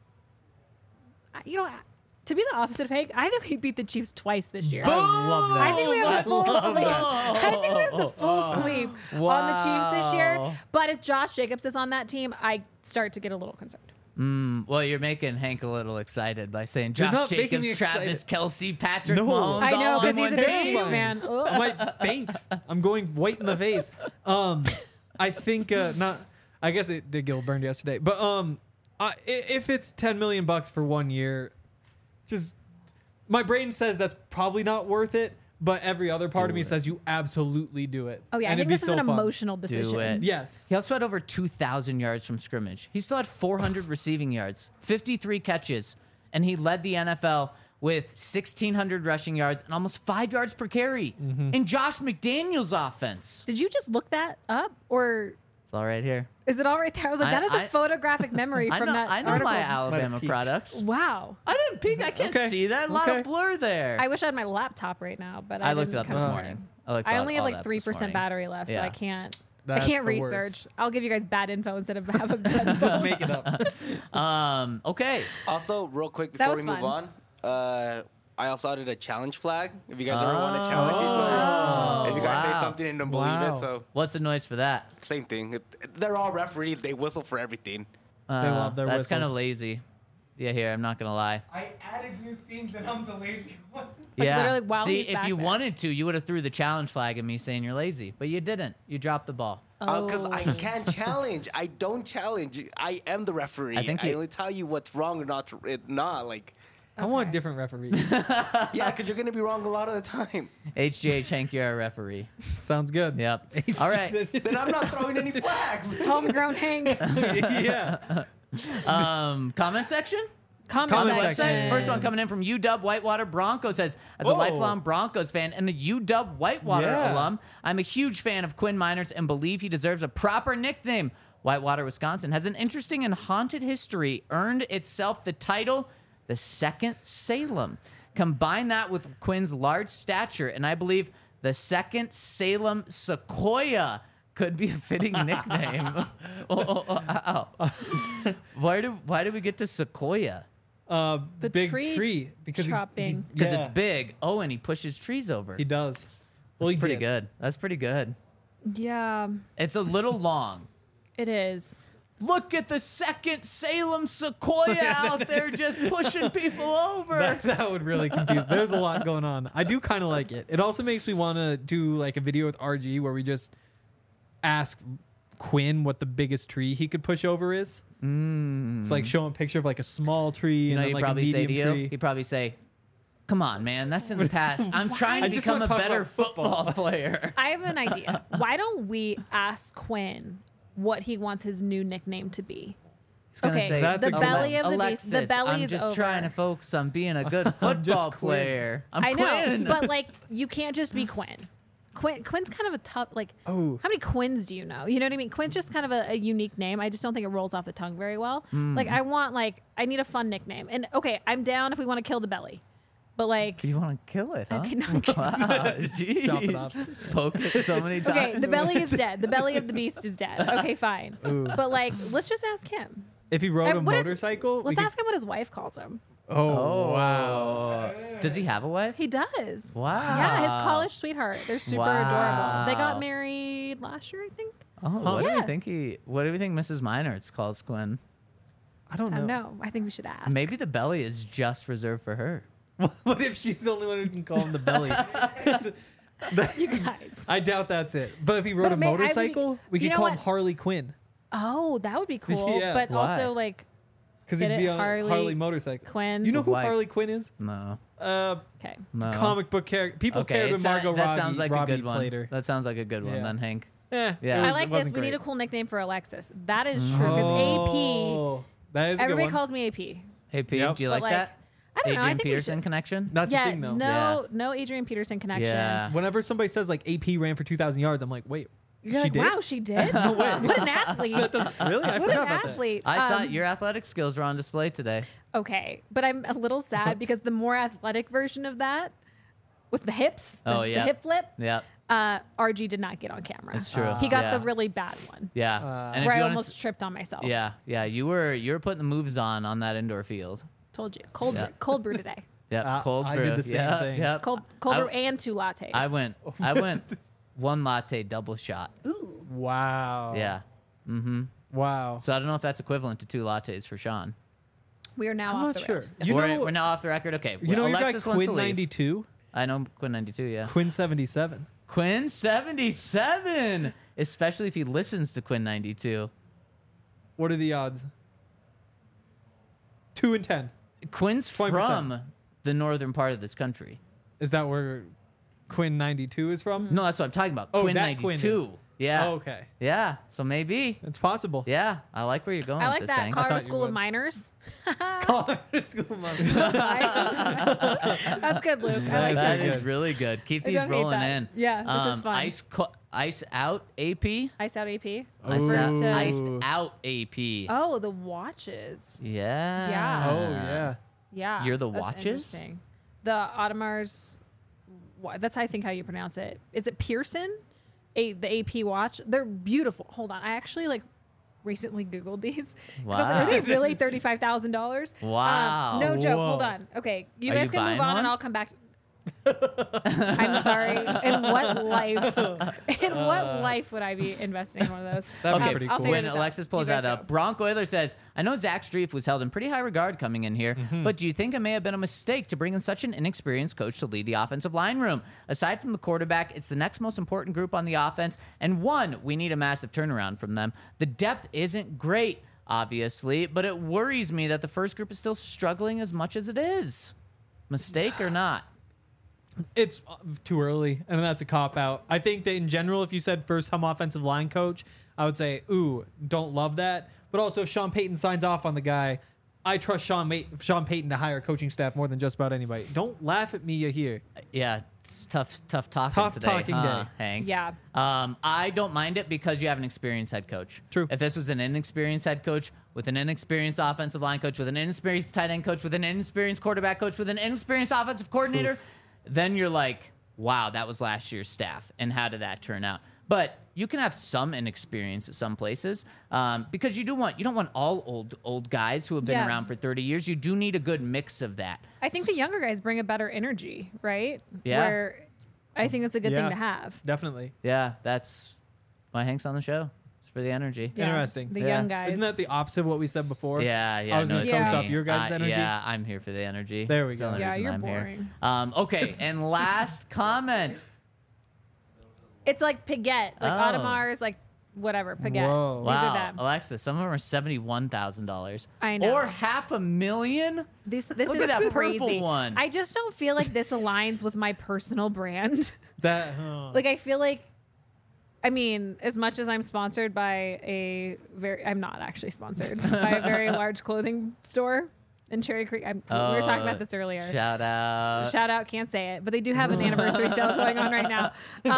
To be the opposite of Hank, I think we beat the Chiefs twice this year. I love that. I think we have the full love sweep. that. I think we have the full sweep on the Chiefs this year. Wow. But if Josh Jacobs is on that team, I start to get a little concerned. Well, you're making Hank a little excited by saying You're Josh not making Jacobs, me Travis Kelce, Patrick No. Mahomes. I know, all in because he's one a big team. Chiefs fan. Ugh. I might faint. I'm going white in the face. I think not. I guess it did get burned yesterday, but if it's $10 million for 1 year, just my brain says that's probably not worth it. But every other part of me says you absolutely do it. Oh, yeah. I And think it'd be this is an so fun. emotional decision. Do it. Yes. He also had over 2,000 yards from scrimmage. He still had 400 receiving yards, 53 catches, and he led the NFL with 1,600 rushing yards and almost 5 yards per carry in Josh McDaniels' offense. Did you just look that up? Or It's all right here. is it all right there? I was like, that is a photographic memory I from know, that I know article. my Alabama peeked. products. Wow. I didn't peek. I can't Okay. see that. A lot Okay. of blur there. I wish I had my laptop right now, but I looked it didn't up come this over. morning. I I only have all like that this 3% morning. battery left, so Yeah. I can't. That's I can't the research. worst. I'll give you guys bad info instead of have a good info. Just make it up. Okay. Also, real quick That before was we move fun. on, I also added a challenge flag. If you guys ever want to challenge it, if you guys Wow. say something and don't believe Wow. it, so What's the noise for that? same thing. They're all referees. They whistle for everything. love their That's kind of whistles. lazy. Yeah, here, I'm not going to lie. I added new things and I'm the lazy one. Like, yeah. literally while See, he's if back you there. wanted to, you would have threw the challenge flag at me saying you're lazy, but you didn't. You dropped the ball. Because I Oh. can't challenge. I don't challenge. I am the referee. I think I you- only tell you what's wrong or not. Like, I want a Okay. different referee. yeah, because you're gonna be wrong a lot of the time. HGH Hank, you're a referee. Sounds good. Yep. All right. Then I'm not throwing any flags. Homegrown Hank. Yeah. Comment section? Comment Comment Website. section. First one coming in from UW Whitewater Broncos says, as a Whoa. lifelong Broncos fan and a UW Whitewater Yeah. alum, I'm a huge fan of Quinn Miners and believe he deserves a proper nickname. Whitewater, Wisconsin has an interesting and haunted history, earned itself the title, the Second Salem. Combine that with Quinn's large stature, and I believe The second Salem Sequoia could be a fitting nickname. Why do we get to Sequoia? The big tree tree because chopping. Because it's big. Oh, and he pushes trees over. He does. Well, That's he pretty did. good. That's pretty good. Yeah, It's a little long. it is. Look at the second Salem Sequoia out there just pushing people over. That would really confuse. There's a lot going on. I do kind of like it. It also makes me want to do like a video with RG where we just ask Quinn what the biggest tree he could push over is. It's like show him a picture of like a small tree You know, and then he'd like a probably say medium to you, tree. he'd probably say, "Come on, man, that's in the past. I'm trying I to just become wanna a talk better about football." football player." I have an idea. Why don't we ask Quinn what he wants his new nickname to be? He's gonna Okay, say, That's the a belly good of the Alexis, beast. The belly I'm is just over. trying to focus on being a good football Quinn. player. I'm I know, Quinn. but like you can't just be Quinn. Quinn's kind of a tough like. Oh. How many Quinns do you know? You know what I mean? Quinn's just kind of a unique name. I just don't think it rolls off the tongue very well. Like I need a fun nickname. And okay, I'm down if we want to kill the belly, but like You want to kill it, huh? Okay, no, Wow, geez. Chop it off. Poke it so many times. okay, the belly is dead. The belly of the beast is dead. Okay, fine. But like, let's just ask him. If he rode a What is- motorcycle, we Let's could- ask him what his wife calls him. Oh, wow. Does he have a wife? He does. Wow. Yeah, his college sweetheart. They're super Wow. adorable. They got married last year, I think. Oh, what do Yeah. we think What do we think Mrs. Meinertz calls Quinn? I don't I know. don't know. I think we should ask. Maybe the belly is just reserved for her. What if she's the only one who can call him the belly? You guys. I doubt that's it. But if he rode But a may- I would- motorcycle, we you could know call him what? Harley Quinn Oh, that would be cool. Yeah. But Why? also like because Get he'd be it? on Harley Harley motorcycle. Quinn. You know who Why? Harley Quinn is? No. Okay. No. Comic book character. People cared when Margot that Robbie, sounds like Robbie a good one. played her. That sounds like a good one Yeah. then, Hank. Yeah. Yeah. it I was- like it this. wasn't We need a great. cool nickname for Alexis. That is true because AP. Oh, that is a good Everybody one. calls me AP. Hey, Pete, Yep. do you But, like that? I don't know. I Adrian think we Peterson should- connection? That's Yeah. the thing, though. No Adrian Peterson connection. Yeah. Whenever somebody says like AP ran for 2,000 yards, I'm like, wait, You're she like, did? wow, she did. What an athlete. Really? I What forgot an about that. athlete. I saw your athletic skills were on display today. Okay, but I'm a little sad because the more athletic version of that, with the hips, Oh, the yeah. hip flip, Yeah. RG did not get on camera. It's true. He got Yeah. the really bad one, Yeah. And where if I you almost want to, tripped on myself. yeah, you were putting the moves on that indoor field. Told you. Cold, Yeah. cold brew today. Yeah, cold I brew. did the same yeah, thing. Yeah. Cold brew and 2 lattes. I went one latte double shot. Ooh. Wow. Yeah. Wow. So I don't know if that's equivalent to 2 lattes for Sean. We are now I'm off not the sure. rails. You know, We're now off the record. Okay. you know your guy Alexis wants to Quinn leave. 92? I know Quinn 92. Yeah. Quinn 77. Quinn 77. Especially if he listens to Quinn 92. What are the odds? 2 in 10. Quinn's 20%. from the northern part of this country. Is that where Quinn 92 is from? No, that's what I'm talking about. Oh, Quinn that 92. Quinn is. Yeah. Oh, okay. Yeah. So maybe. It's possible. Yeah. I like where you're going I with like this that. thing. Colorado thought you School of would. Miners. Colorado School of Miners. That's good, Luke. I like That that. is really good. Keep I these don't hate rolling that. in. Yeah, this is fun. Ice out AP. Iced out AP. Iced First out, to- iced out AP. Oh, the watches. Yeah. Yeah. Oh, yeah. Yeah. You're the that's watches? interesting. The Audemars. That's I think how you pronounce it. Is it Pearson? The AP watch. They're beautiful. Hold on. I actually recently Googled these. 'Cause I was like, Wow. are they really $35,000? Wow. No joke. Whoa. Hold on. Okay, you Are guys you can move buying on, one? and I'll come back. I'm sorry. In what life? In what life would I be investing in one of those? That'd be Okay, pretty I'll cool. figure when this out. Alexis pulls You guys that go. up, Bronk Euler says, I know Zach Strief was held in pretty high regard coming in here, but do you think it may have been a mistake to bring in such an inexperienced coach to lead the offensive line room? Aside from the quarterback, it's the next most important group on the offense, and one, we need a massive turnaround from them. The depth isn't great, obviously, but it worries me that the first group is still struggling as much as it is. Mistake or not? It's too early, and that's a cop out. I think that in general, if you said first time offensive line coach, I would say, ooh, don't love that. But also, if Sean Payton signs off on the guy, I trust Sean Payton to hire coaching staff more than just about anybody. Don't laugh at me here. Yeah, it's tough talking Tough today, talking huh, day. Hank? Yeah. I don't mind it because you have an experienced head coach. True. If this was an inexperienced head coach with an inexperienced offensive line coach with an inexperienced tight end coach with an inexperienced quarterback coach with an inexperienced offensive coordinator, then you're like, wow, that was last year's staff, and how did that turn out? But you can have some inexperience at some places because you don't want all old guys who have been Yeah. around for 30 years. You do need a good mix of that. I think the younger guys bring a better energy, right? Yeah. Where I think that's a good Yeah. thing to have. Definitely. Yeah, that's why Hank's on the show. It's for the energy. Yeah, Interesting. The Yeah. young guys. Isn't that the opposite of what we said before? Yeah. I was gonna it's coast me. off your guys' energy. Yeah, I'm here for the energy. There we It's the go. only Yeah, reason you're I'm here. boring. Okay, and last comment. It's like Piguet, like Oh. Audemars, like whatever, Piguet. Whoa. These are Wow, them. Alexa, some of them are $71,000. I know. Or $500,000. This Look is at that crazy. purple one. I just don't feel like this aligns with my personal brand. That. Like I feel like, I mean, as much as I'm sponsored by I'm not actually sponsored by a very large clothing store in Cherry Creek. We were talking about this earlier. Shout out. Shout out, can't say it, but they do have an anniversary sale going on right now.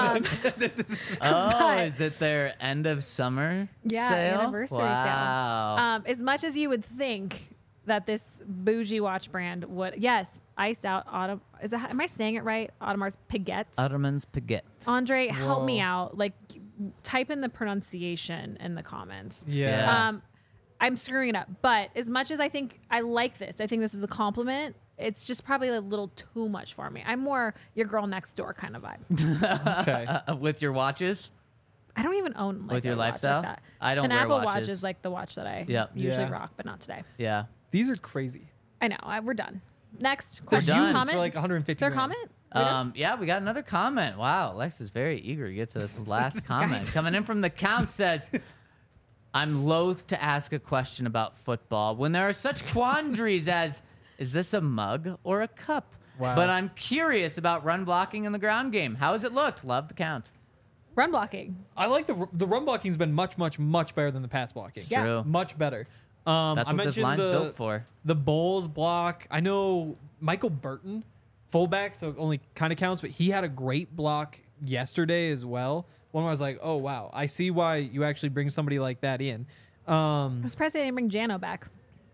Oh, is it their end of summer Yeah, sale? anniversary Wow. sale. As much as you would think that this bougie watch brand would, yes, iced out Autumn. Am I saying it right? Audemars Piguets. Ottoman's Piguet. Andre, help Whoa. me out. Like, type in the pronunciation in the comments. Yeah. I'm screwing it up, but as much as I think I like this, I think this is a compliment. It's just probably a little too much for me. I'm more your girl next door kind of vibe. Okay. With your watches? I don't even own like With your a watch lifestyle? like that. I don't An wear Apple Watch watches. is like the watch that I Yep. usually Yeah. rock, but not today. Yeah. These are crazy. I know. We're done. Next They're question. done. used Comment? for like 150. Is there a grand. comment? We done? Yeah, we got another comment. Wow, Alexa's very eager to get to this last comment. Coming in from the count says, I'm loath to ask a question about football when there are such quandaries as, is this a mug or a cup? Wow. But I'm curious about run blocking in the ground game. How has it looked? Love the count. Run blocking. I like the run blocking's been much better than the pass blocking. Yeah. True. Much better. That's I what this mentioned line's built for. the Bulls block. I know Michael Burton, fullback, so only kind of counts, but he had a great block yesterday as well. One where I was like, oh wow, I see why you actually bring somebody like that in. I'm surprised they didn't bring Jano back.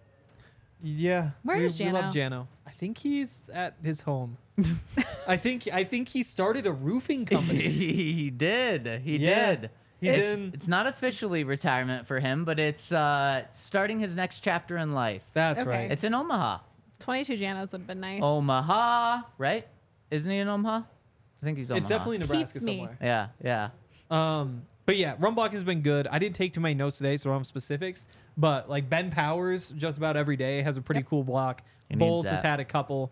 Yeah, Where is we love Jano? Jano. I think he's at his home. I think he started a roofing company. He did. He Yeah. did. He's It's, in- it's not officially retirement for him, but it's starting his next chapter in life. That's Okay. right. It's in Omaha. 22 Janos would have been nice. Omaha, right? Isn't he in Omaha? I think he's Omaha. It's definitely Nebraska Keeps me. somewhere. Yeah, yeah. But yeah, run blocking has been good. I didn't take too many notes today, so I don't have specifics. But like Ben Powers, just about every day has a pretty cool block. He needs Bowles has that. had a couple.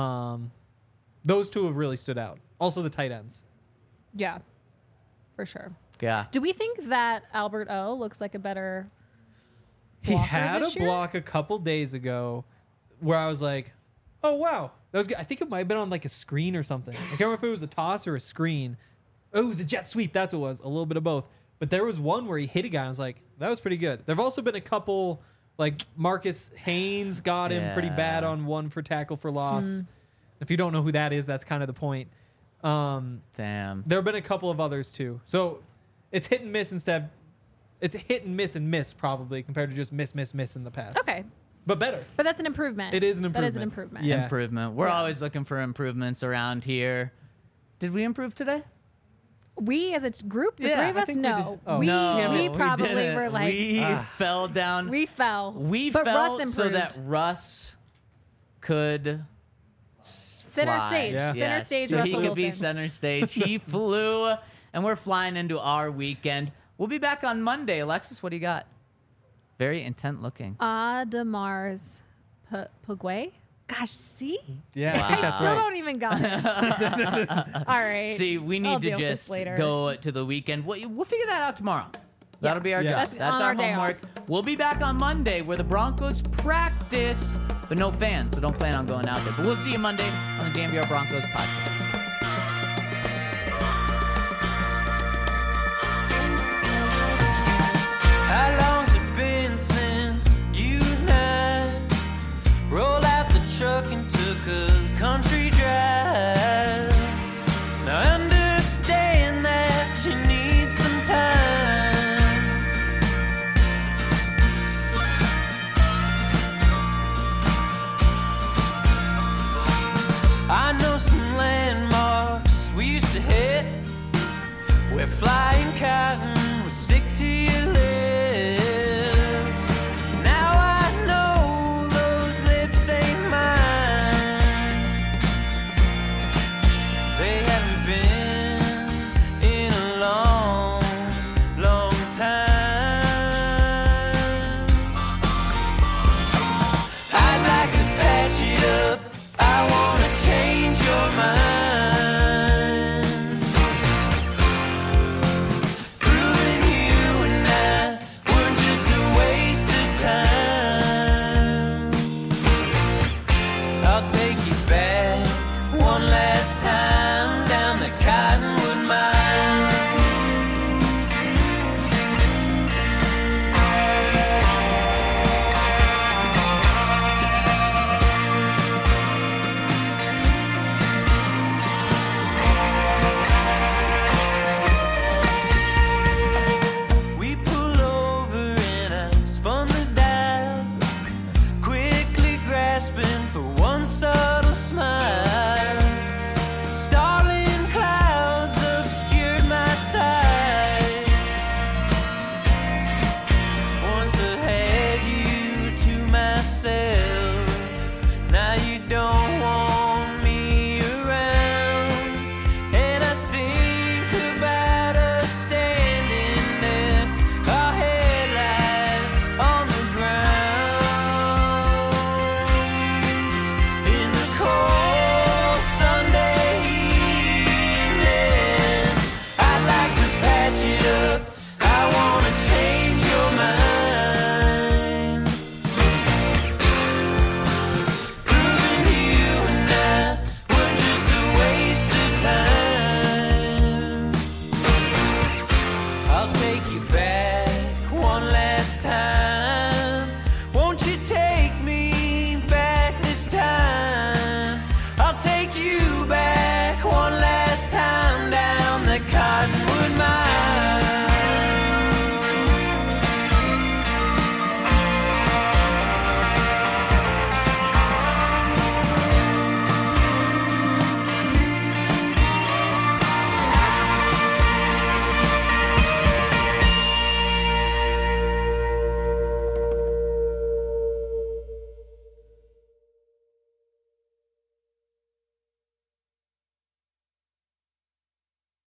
Those two have really stood out. Also the tight ends. Yeah, for sure. Yeah. Do we think that Albert O looks like a better He blocker had a this year? block a couple days ago where I was like, oh wow, that was good. I think it might have been on like a screen or something. I can't remember if it was a toss or a screen. Oh, it was a jet sweep. That's what it was. A little bit of both. But there was one where he hit a guy. I was like, that was pretty good. There've also been a couple, like Marcus Haynes got him pretty bad Yeah. on one for tackle for loss. If you don't know who that is, that's kind of the point. Damn. There have been a couple of others too. So it's hit and miss instead. It's hit and miss probably compared to just miss in the past. Okay, But better. but that's an improvement. It is an That is an improvement. improvement. Yeah. Improvement. We're Yeah. always looking for improvements around here. Did we improve today? We as a group, the Yeah, three of I us, think we no. did. Oh. we, No, Damn we it, probably didn't. were like, we fell down. we fell. We but fell Russ so improved. that Russ could Center fly. stage. Yeah. Center Yes, stage, so Russell he could be Wilson. center stage. He flew, and we're flying into our weekend. We'll be back on Monday. Alexis, what do you got? Very intent looking. Audemars Piguet? Gosh, see? Yeah, I Wow. think that's Still right. don't even got it. All right. See, we I'll need to deal with this just later. go to the weekend. We'll figure that out tomorrow. That'll be our Yeah. job. That's That's on our our day homework. We'll be back on Monday where the Broncos practice, but no fans, so don't plan on going out there. But we'll see you Monday on the DMVR Broncos podcast. How long's it been since you and I rolled out the truck and took a country drive? Now I understand that you need some time. I know some land We're flying cotton